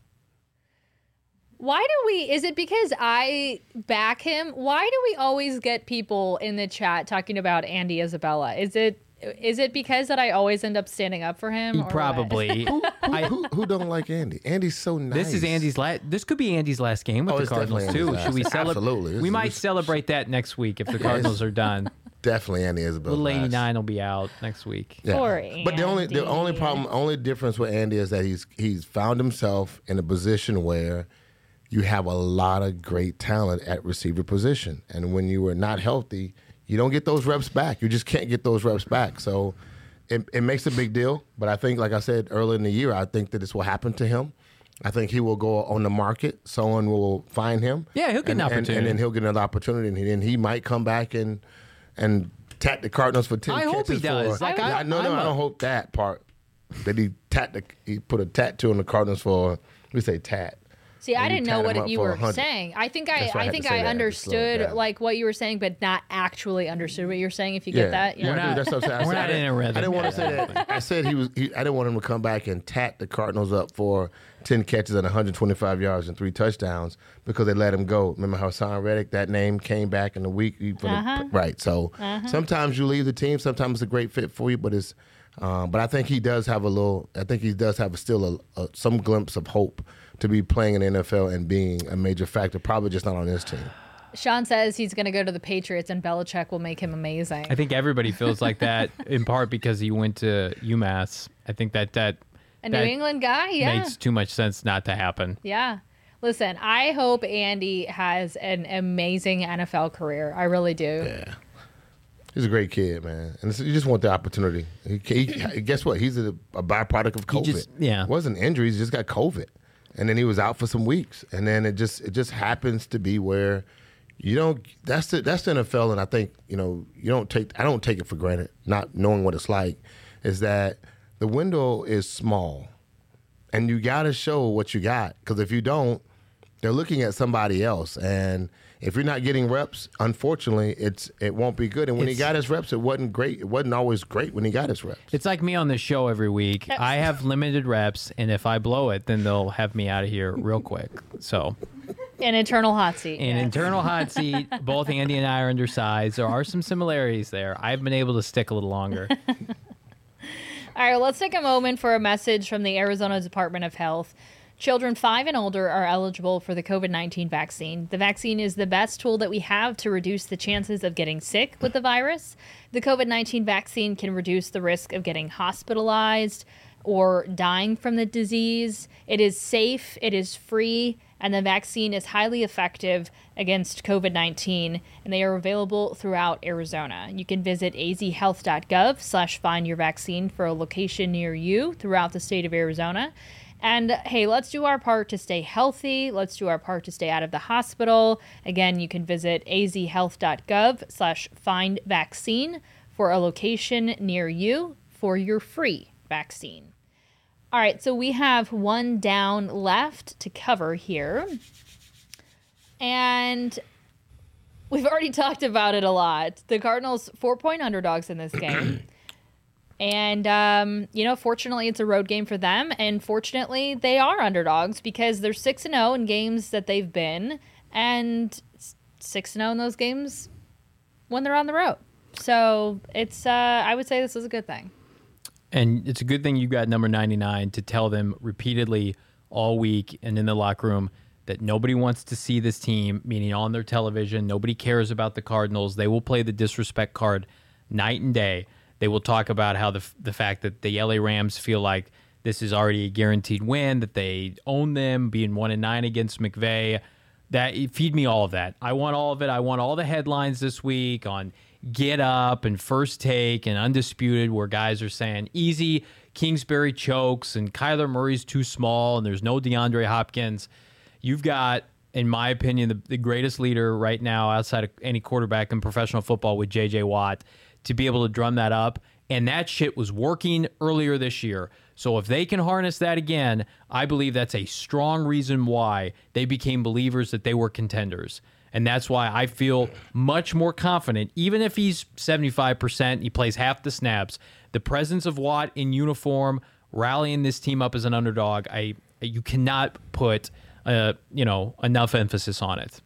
Why do we? Is it because I back him? Why do we always get people in the chat talking about Andy Isabella? Is it is it because that I always end up standing up for him? or what? Probably. I, who, who don't like Andy? Andy's so nice. this is Andy's last. This could be Andy's last game with Oh, the it's Cardinals definitely too. Andy's Should we last. celebrate? Absolutely. This We is- might this- celebrate that next week if the Cardinals are done. Definitely Andy Isabel. Little eighty-nine will be out next week. Yeah. Poor But the only the Andy. only problem, only difference with Andy is that he's he's found himself in a position where you have a lot of great talent at receiver position, and when you are not healthy, you don't get those reps back. You just can't get those reps back. So it, it makes a big deal. But I think, like I said earlier in the year, I think that this will happen to him. I think he will go on the market. Someone will find him. Yeah, he'll get and, an and- opportunity. and then he'll get another opportunity, and then he might come back and and tap the Cardinals for ten I catches. hope he does. For, Like, Yeah, I- no, no, I'm I a- don't hope that part. That he tat the, he put a tattoo on the Cardinals for, we say tat. See, I And you didn't know tat what him up you for were one hundred. saying. I think I, That's why I I had to think say I that to slow it understood down. like what you were saying, but not actually understood what you're saying. If you get that, Yeah, you know? not- that's what I'm saying. I we're said- not I in a didn't- rhythm. I didn't want to say that. I said he was. He, I didn't want him to come back and tat the Cardinals up for ten catches and one hundred twenty-five yards and three touchdowns because they let him go. Remember how Hassan Reddick, that name came back in the week. For Uh-huh. the, right. So sometimes you leave the team. Sometimes it's a great fit for you, but it's. Um, but I think he does have a little. I think he does have still a, a, some glimpse of hope to be playing in the N F L and being a major factor. Probably just not on this team. Sean says he's going to go to the Patriots, and Belichick will make him amazing. I think everybody feels like that in part because he went to UMass. I think that that, A New that England guy, yeah. makes too much sense not to happen. Yeah. Listen, I hope Andy has an amazing N F L career. I really do. Yeah. He's a great kid, man, and it's, you just want the opportunity. He, he, guess what? He's a, a byproduct of COVID. just- yeah. it wasn't injuries; he just got COVID, and then he was out for some weeks, and then it just it just happens to be where you don't. That's the that's the N F L, and I think you know you don't take. I don't take it for granted, not knowing what it's like. Is that the window is small, And you got to show what you got, because if you don't, they're looking at somebody else. And if you're not getting reps, unfortunately, it's it won't be good. And when It's- he got his reps, it wasn't great. It wasn't always great when he got his reps. It's like me on this show every week. I have limited reps, and if I blow it, then they'll have me out of here real quick. So, An eternal hot seat. an yes. internal hot seat. Both Andy and I are undersized. There are some similarities there. I've been able to stick a little longer. All right, well, let's take a moment for a message from the Arizona Department of Health. Children five and older are eligible for the COVID nineteen vaccine. The vaccine is the best tool that we have to reduce the chances of getting sick with the virus. The COVID nineteen vaccine can reduce the risk of getting hospitalized or dying from the disease. It is safe, it is free, and the vaccine is highly effective against COVID nineteen, and they are available throughout Arizona. You can visit azhealth.gov slash find your vaccine for a location near you throughout the state of Arizona. And hey, let's do our part to stay healthy. Let's do our part to stay out of the hospital. Again, you can visit azhealth.gov slash find vaccine for a location near you for your free vaccine. All right, so we have one down left to cover here. And we've already talked about it a lot. The Cardinals, four-point underdogs in this game. And, um, you know, fortunately, it's a road game for them. And fortunately, they are underdogs because they're six and oh in games that they've been. And six and oh in those games when they're on the road. So it's, uh, I would say this is a good thing. And it's a good thing you got number ninety-nine to tell them repeatedly all week and in the locker room that nobody wants to see this team, meaning on their television. Nobody cares about the Cardinals. They will play the disrespect card night and day. They will talk about how the the fact that the L A Rams feel like this is already a guaranteed win, that they own them, being one and nine against McVay. That feed me all of that. I want all of it. I want all the headlines this week on Get Up and First Take and Undisputed, where guys are saying easy, Kingsbury chokes, and Kyler Murray's too small, and there's no DeAndre Hopkins. You've got, in my opinion, the, the greatest leader right now outside of any quarterback in professional football with J J Watt to be able to drum that up. And that shit was working earlier this year. So if they can harness that again, I believe that's a strong reason why they became believers that they were contenders. And that's why I feel much more confident, even if he's seventy-five percent, he plays half the snaps. The presence of Watt in uniform, rallying this team up as an underdog, I you cannot put uh, you know enough emphasis on it.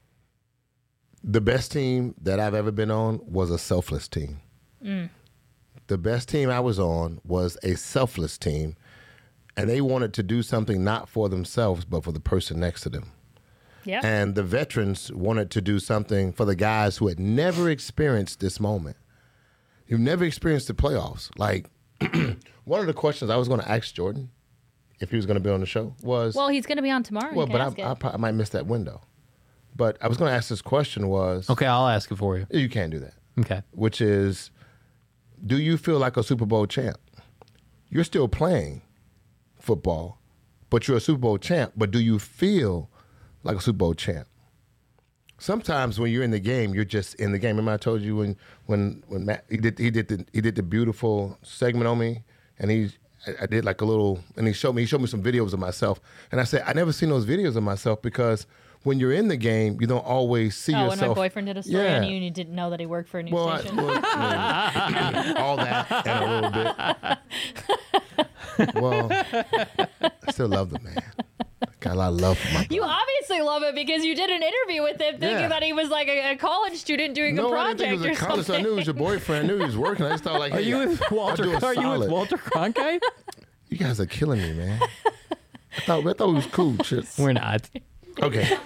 The best team that I've ever been on was a selfless team. Mm. The best team I was on was a selfless team, and they wanted to do something not for themselves, but for the person next to them. Yeah. And the veterans wanted to do something for the guys who had never experienced this moment. You've never experienced the playoffs. Like, one of the questions I was going to ask Jordan, if he was going to be on the show, was... Well, he's going to be on tomorrow. Well, You but can I, ask it. I, probably- I might miss that window. But I was going to ask this question was... Okay, I'll ask it for you. You can't do that. Okay. Which is, do you feel like a Super Bowl champ? You're still playing football, but you're a Super Bowl champ. But do you feel like a Super Bowl champ? Sometimes when you're in the game, you're just in the game. Remember I told you when when when Matt he did he did the he did the beautiful segment on me, and he I, I did like a little, and he showed me he showed me some videos of myself, and I said I never seen those videos of myself because when you're in the game, you don't always see oh, yourself. when my boyfriend did a story Yeah. on you and you didn't know that he worked for a news Well, I, station. well I mean, all that and a little bit. Well, I still love the man. Got a lot of love for my You obviously love it because you did an interview with him thinking Yeah. that he was like a, a college student doing No, a I didn't project think it was or a college. something. I knew it was your boyfriend. I knew he was working. I just thought like, Are hey, you with I'll Walter? do a Are you with solid. Walter Cronkite? You guys are killing me, man. I thought I thought we was cool. Shit. We're not. Okay.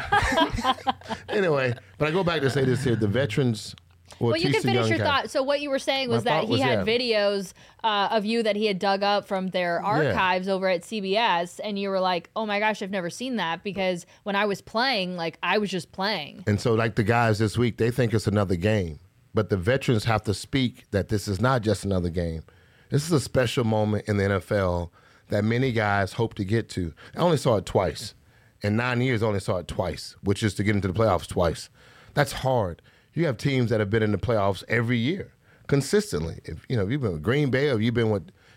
Anyway, but I go back to say this here: the veterans. Will Well, you teach can the finish young your guys. thought. So what you were saying was My that thought he was, had yeah. videos uh, of you that he had dug up from their archives over at C B S, and you were like, "Oh my gosh, I've never seen that," because when I was playing, like I was just playing. And so, like the guys this week, they think it's another game. But the veterans have to speak that this is not just another game. This is a special moment in the N F L that many guys hope to get to. I only saw it twice. In nine years, I only saw it twice, which is to get into the playoffs twice. That's hard. You have teams that have been in the playoffs every year, consistently. If you know, if you've been with Green Bay or you've been with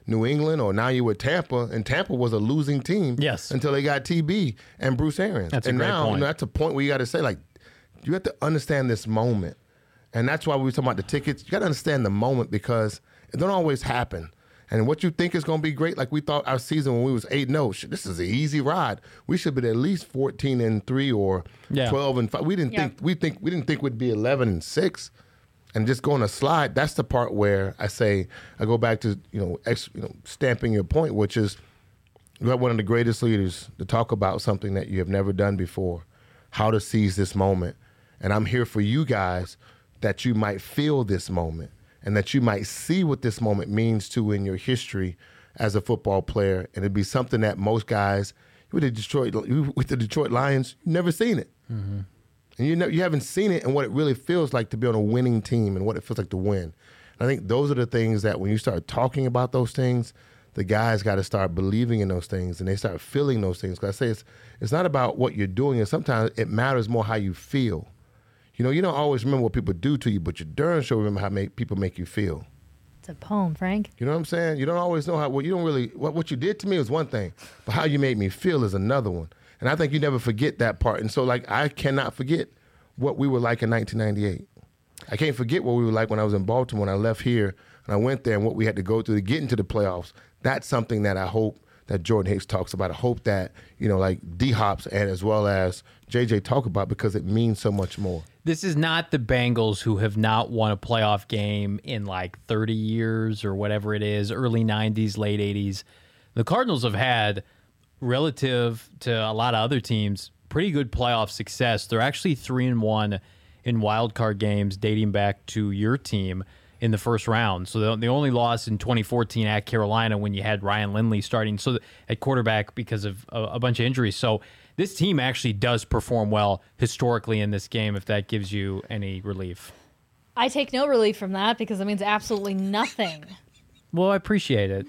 New England or now you're with Tampa, and Tampa was a losing team Yes. until they got T B and Bruce Arians. That's a and great now, point. You know, that's a point where you got to say, like, you have to understand this moment. And that's why we were talking about the tickets. You got to understand the moment because it don't always happen. And what you think is going to be great, like we thought our season when we was eight and oh, shit, this is an easy ride. We should be at least fourteen and three or Yeah. twelve and five. We didn't Yeah. think we think we didn't think we'd be eleven and six. And just going a slide, that's the part where I say I go back to, you know, ex, you know, stamping your point, which is you have one of the greatest leaders to talk about something that you have never done before, how to seize this moment. And I'm here for you guys that you might feel this moment and that you might see what this moment means to in your history as a football player. And it'd be something that most guys with the Detroit with the Detroit Lions, you've never seen it. Mm-hmm. And you know you haven't seen it and what it really feels like to be on a winning team and what it feels like to win. And I think those are the things that when you start talking about those things, the guys got to start believing in those things and they start feeling those things. Because I say it's it's not about what you're doing, and sometimes it matters more how you feel. You know, you don't always remember what people do to you, but you darn sure remember how make, people make you feel. It's a poem, Frank. You know what I'm saying? You don't always know how. Well, you don't really. What what you did to me was one thing, but how you made me feel is another one. And I think you never forget that part. And so, like, I cannot forget what we were like in nineteen ninety-eight. I can't forget what we were like when I was in Baltimore and I left here and I went there and what we had to go through to get into the playoffs. That's something that I hope that Jordan Hicks talks about. I hope that, you know, like D-Hops and as well as J J talk about because it means so much more. This is not the Bengals who have not won a playoff game in like thirty years or whatever it is, early nineties, late eighties. The Cardinals have had, relative to a lot of other teams, pretty good playoff success. They're actually three and one in wild card games dating back to your team in the first round. So the, the only loss in twenty fourteen at Carolina when you had Ryan Lindley starting so at quarterback because of a, a bunch of injuries. So this team actually does perform well historically in this game, if that gives you any relief. I take no relief from that because it means absolutely nothing. Well, I appreciate it.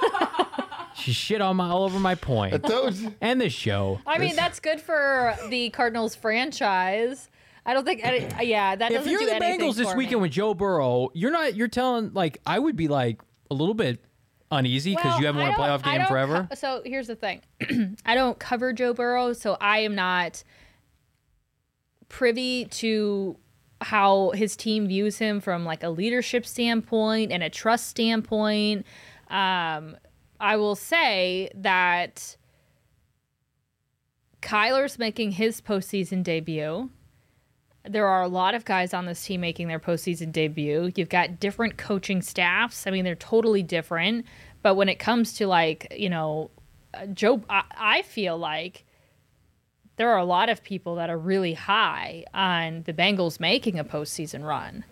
She shit on my all over my point. I told you. And the show. I mean, that's good for the Cardinals franchise. I don't think, I, yeah, that If doesn't you're do the anything Bengals this for weekend me. with Joe Burrow, you're not. You're telling like I would be like a little bit uneasy because Well, you haven't I won a don't- playoff I game don't forever. co- so here's the thing. I don't cover Joe Burrow, so I am not privy to how his team views him from like a leadership standpoint and a trust standpoint. Um, I will say that Kyler's making his postseason debut. There are a lot of guys on this team making their postseason debut. You've got different coaching staffs. I mean, they're totally different. But when it comes to, like, you know, uh, Joe, I, I feel like there are a lot of people that are really high on the Bengals making a postseason run.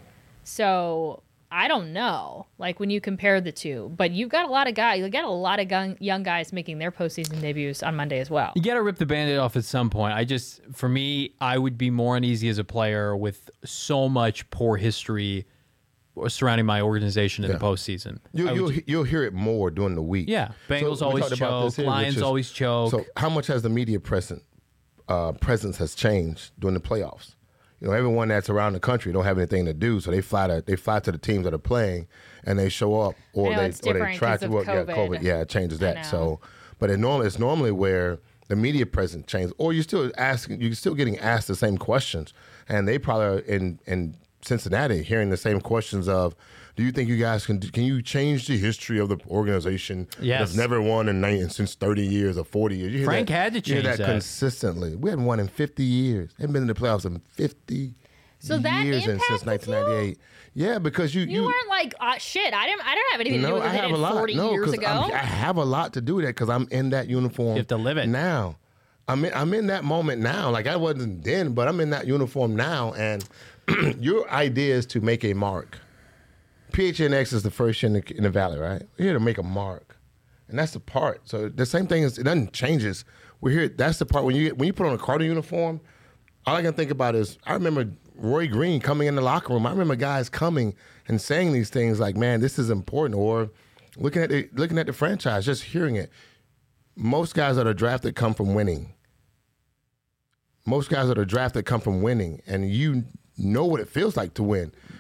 So I don't know, like, when you compare the two. But you've got a lot of guys. You've got a lot of young, young guys making their postseason debuts on Monday as well. You got to rip the Band-Aid off at some point. I just, for me, I would be more uneasy as a player with so much poor history surrounding my organization in Yeah. the postseason. You, I would you'll, ju- you'll hear it more during the week. Yeah. Bengals we always talked about this choke. here, which Lions is- always choke. So how much has the media present, uh, presence has changed during the playoffs? You know, everyone that's around the country don't have anything to do, so they fly to they fly to the teams that are playing, and they show up, or I know they it's or they different try 'cause to of work. Yeah, COVID. COVID. Yeah, it changes I that. know. So, but it normally it's normally where the media presence changes, or you're still asking, you're still getting asked the same questions, and they probably are in in Cincinnati hearing the same questions of, do you think you guys can can you change the history of the organization Yes. that's never won in nine, since thirty years or forty years? You hear Frank that, had to you hear change that that. consistently. We hadn't won in fifty years. Haven't been in the playoffs in fifty So that years and since impacted you? nineteen ninety-eight. Yeah, because you You, weren't like, uh, shit, I didn't I don't have anything to do no, with I it have in a lot. forty No, years 'cause ago. I'm- I have a lot to do with that because I'm in that uniform. You have to live it. now. I'm in, I'm in that moment now. Like I wasn't then, but I'm in that uniform now. And your idea is to make a mark. P H N X is the first year in the, in the Valley, right? We're here to make a mark, and that's the part. So the same thing is it doesn't changes. We're here. That's the part when you when you put on a Cardinal uniform. All I can think about is I remember Roy Green coming in the locker room. I remember guys coming and saying these things like, "Man, this is important," or looking at the, looking at the franchise, just hearing it. Most guys that are drafted come from winning. Most guys that are drafted come from winning, and you know what it feels like to win.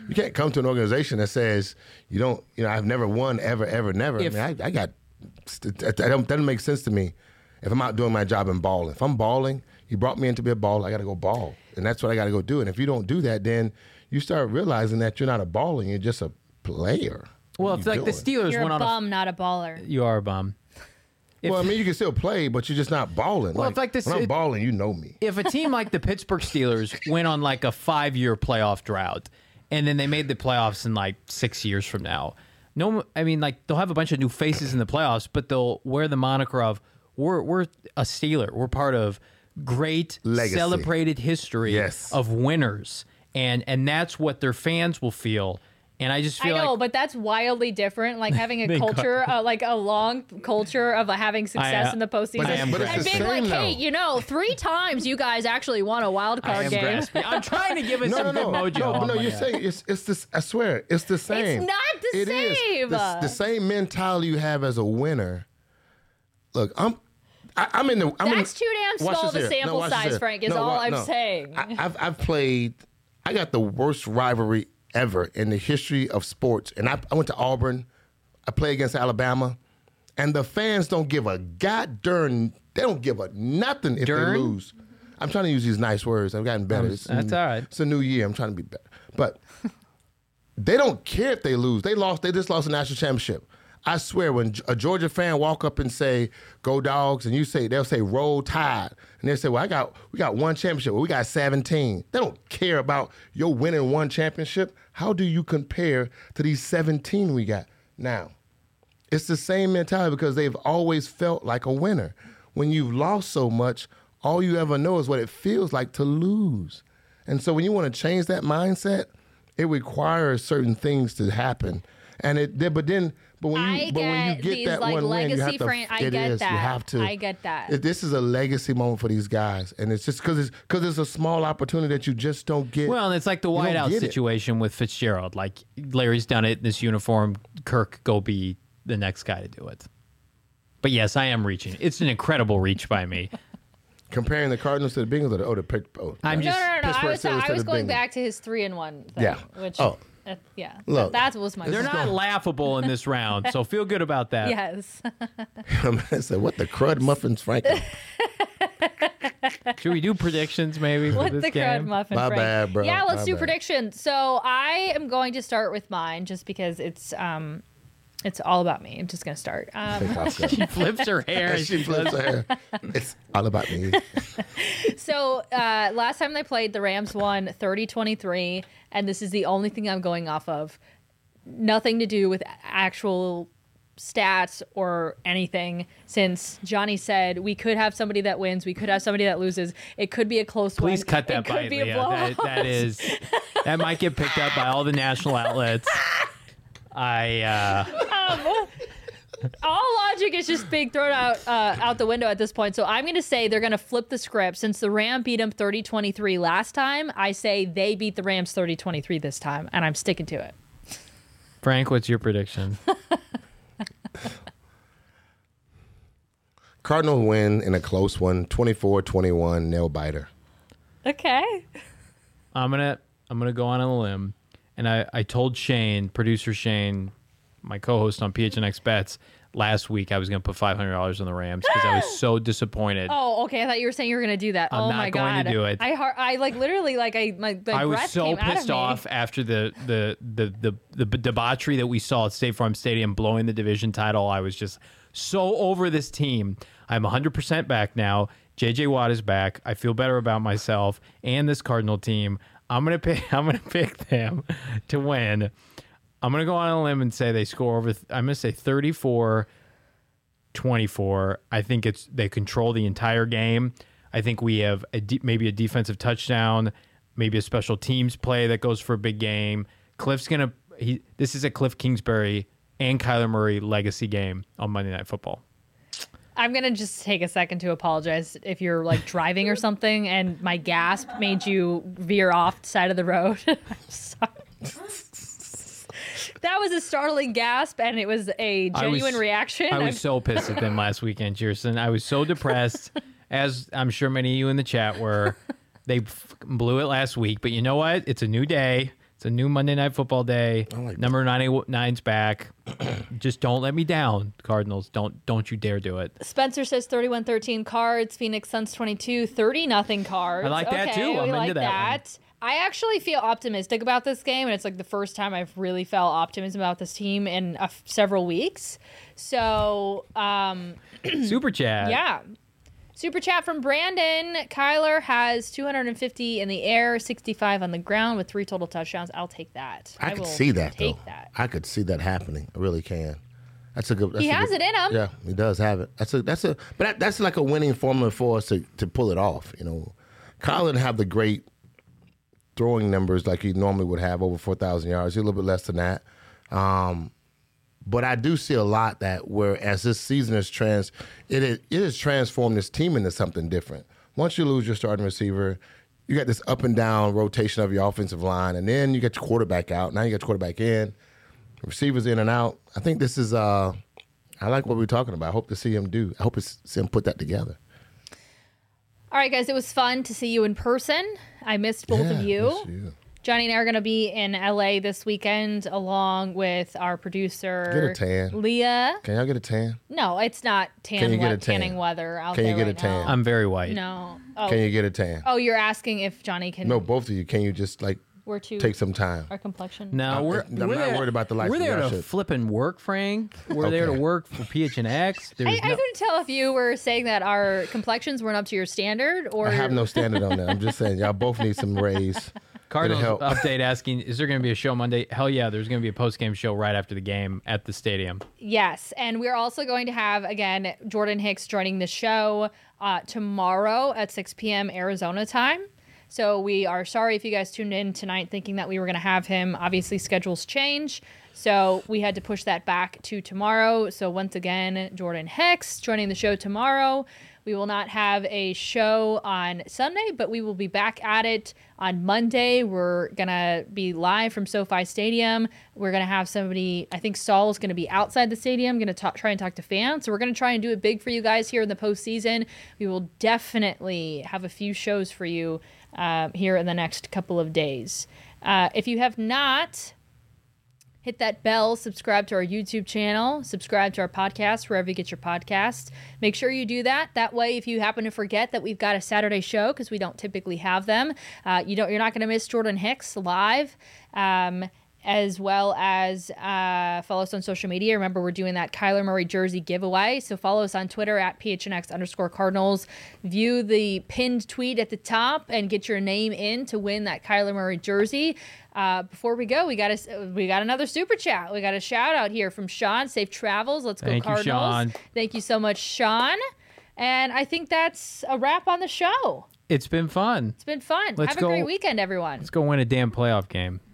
You can't come to an organization that says you don't. You know, I've never won ever, ever, never. If- I mean, I, I got. That don't, doesn't make sense to me. If I'm out doing my job and balling, if I'm balling, you brought me in to be a baller. I got to go ball, and that's what I got to go do. And if you don't do that, then you start realizing that you're not a baller, you're just a player. Well, What it's you like the doing? Steelers You're went a on bum, not a baller. a. You are a bum. If- Well, I mean, you can still play, but you're just not balling. Well, it's like this- When I'm it- balling, you know me. If a team like the Pittsburgh Steelers went on like a five-year playoff drought, and then they made the playoffs in like six years from now, no, I mean, like they'll have a bunch of new faces in the playoffs, but they'll wear the moniker of we're we're a Steeler. We're part of great Legacy. celebrated history Yes. of winners, and and that's what their fans will feel. And I just I feel know, like but that's wildly different. Like having a They got- culture, uh, like a long culture of uh, having success I, uh, in the postseason, I am But it's and the being same, like, though. hey, you know, three times you guys actually won a wild I card am game. grasping. I'm trying to give it No, some no, no, good mojo. no. But on no, my you're end. saying it's it's this. I swear, it's the same. not the It is. same. The, the same mentality you have as a winner. Look, I'm. I, I'm in the. I'm That's in, too damn watch small this of a here. sample watch this size, here. Frank, is No, all wa- I'm no. saying. I, I've I've played. I got the worst rivalry ever in the history of sports, and I, I went to Auburn. I played against Alabama, and the fans don't give a god darn. They don't give a nothing if Darn? they lose. I'm trying to use these nice words. I've gotten better. Um, It's that's a- all right. It's a new year. I'm trying to be better, but they don't care if they lose. They lost. They just lost a national championship. I swear, when a Georgia fan walk up and say "Go Dogs," and you say they'll say "Roll Tide," and they say, "Well, I got we got one championship. Well, we got seventeen." They don't care about your winning one championship. How do you compare to these seventeen we got now? It's the same mentality because they've always felt like a winner. When you've lost so much, all you ever know is what it feels like to lose. And so when you want to change that mindset, it requires certain things to happen. And it, but then, but when you, I but when you get get these, that like, one win, you legacy have to. fran- I it get is, that. You have to. I get that. It- this is a legacy moment for these guys, and it's just because it's because it's a small opportunity that you just don't get. Well, and it's like the don't whiteout get it. situation with Fitzgerald. Like Larry's done it in this uniform. Kirk, go be the next guy to do it. But yes, I am reaching. It's an incredible reach by me. Comparing the Cardinals to the Bengals, or the, oh, the Pit- oh, I'm No, just no, no, no. I Pittsburgh was, Steelers I to was the going Bengals. back to his three and one thing. Yeah. Which, Oh. uh, yeah. Look, that was my. they're not laughable in this round, so feel good about that. Yes. I said, what the crud muffins, Frankie? Should we do predictions maybe for What this the game? crud muffin, My Frank. bad, bro. Yeah, let's My do bad. predictions. So I am going to start with mine just because it's um, it's all about me. I'm just gonna start. Um, She flips her hair. and she she flips her hair. It's all about me. so uh, last time they played, the Rams won thirty twenty-three, and this is the only thing I'm going off of. Nothing to do with actual stats or anything, since Johnny said we could have somebody that wins, we could have somebody that loses. It could be a close one. Please cut that it could bite, be a Leah. blowout. That, that is that might get picked up by all the national outlets. I uh All logic is just being thrown out uh, out the window at this point. So I'm going to say they're going to flip the script. Since the Rams beat them thirty twenty-three last time, I say they beat the Rams thirty twenty-three this time, and I'm sticking to it. Frank, what's your prediction? Cardinals win in a close one, twenty-four twenty-one, nail biter. Okay. I'm gonna I'm gonna go on a limb, and I, I told Shane, producer Shane, my co-host on P H N X Bets, last week I was gonna put five hundred dollars on the Rams because I was so disappointed. Oh, okay. I thought you were saying you were going to do that. I'm oh not my going god. to do it. I har- I like literally like I my, my I was breath so came out of pissed me. off after the the, the the the the debauchery that we saw at State Farm Stadium blowing the division title. I was just so over this team. I'm one hundred percent back now. J J Watt is back. I feel better about myself and this Cardinal team. I'm gonna pick. I'm gonna pick them to win. I'm gonna go on a limb and say they score over. I'm gonna say thirty-four twenty-four. I think it's they control the entire game. I think we have a de- maybe a defensive touchdown, maybe a special teams play that goes for a big game. Cliff's gonna. He. This is a Cliff Kingsbury and Kyler Murray legacy game on Monday Night Football. I'm going to just take a second to apologize if you're like driving or something and my gasp made you veer off the side of the road. I'm sorry. That was a startling gasp, and it was a I was- genuine reaction. I I'm- was so pissed at them last weekend, Kirsten. I was so depressed, as I'm sure many of you in the chat were. They f- blew it last week, but you know what? It's a new day. It's a new Monday Night Football day. I like Number ninety-nine's back. Just don't let me down, Cardinals. Don't don't you dare do it. Spencer says thirty-one thirteen Cards. Phoenix Suns twenty-two, thirty nothing Cards. I like that, okay, too. I'm we into like that one. I actually feel optimistic about this game, and it's like the first time I've really felt optimism about this team in uh, several weeks. So, um, Super chat. yeah. Super chat from Brandon. Kyler has two hundred fifty in the air, sixty-five on the ground with three total touchdowns. I'll take that. I, will could see that take though. that. I could see that happening. I really can. That's a good. That's He a has good, it in him. Yeah, he does have it. That's a that's a but that, that's like a winning formula for us to, to pull it off. You know, Kyle didn't have the great throwing numbers like he normally would have, over four thousand yards. He's a little bit less than that. Um, but I do see a lot that where as this season is trans, it is, it has transformed this team into something different. Once you lose your starting receiver, you got this up and down rotation of your offensive line, and then you get your quarterback out. Now you got your quarterback in, receivers in and out. I think this is, uh, I like what we're talking about. I hope to see him do. I hope to see him put that together. All right, guys, it was fun to see you in person. I missed both Yeah, of you. miss you. Johnny and I are going to be in L A this weekend along with our producer, Get a tan. Leah. Can y'all get a tan? No, it's not tan Can you get we- a tan? tanning weather out Can you there get a right tan? now. I'm very white. No. Oh. Can you get a tan? oh, you're asking if Johnny can. No, both of you. Can you just like We're too. take some time? Our complexion. No, I'm- we're, I'm we're not there, worried about the lights We're and there y'all to should. flip and work, Frank. We're there to Okay. work for P H N X. There's I, I no, couldn't tell if you were saying that our complexions weren't up to your standard or. I have no standard on that. I'm just saying y'all both need some raise. Cardinals help. update asking, is there going to be a show Monday? Hell yeah, there's going to be a post-game show right after the game at the stadium. Yes, and we're also going to have, again, Jordan Hicks joining the show uh, tomorrow at six p.m. Arizona time. So we are sorry if you guys tuned in tonight thinking that we were going to have him. Obviously, schedules change, so we had to push that back to tomorrow. So once again, Jordan Hicks joining the show tomorrow. We will not have a show on Sunday, but we will be back at it on Monday. We're going to be live from SoFi Stadium. We're going to have somebody, I think Saul is going to be outside the stadium, going to try and talk to fans. So we're going to try and do it big for you guys here in the postseason. We will definitely have a few shows for you uh, here in the next couple of days. Uh, if you have not... hit that bell, subscribe to our YouTube channel, subscribe to our podcast, wherever you get your podcasts. Make sure you do that. That way, if you happen to forget that we've got a Saturday show, because we don't typically have them, uh, you don't, you're not going to miss Jordan Hicks live, um, as well as uh, follow us on social media. Remember, we're doing that Kyler Murray jersey giveaway. So follow us on Twitter at P H N X underscore Cardinals. View the pinned tweet at the top and get your name in to win that Kyler Murray jersey. Uh, before we go, we got a, we got another super chat. We got a shout out here from Sean. Safe travels. Let's go Thank you, Cardinals. Sean. Thank you so much, Sean. And I think that's a wrap on the show. It's been fun. It's been fun. Let's Have a go- great weekend, everyone. Let's go win a damn playoff game.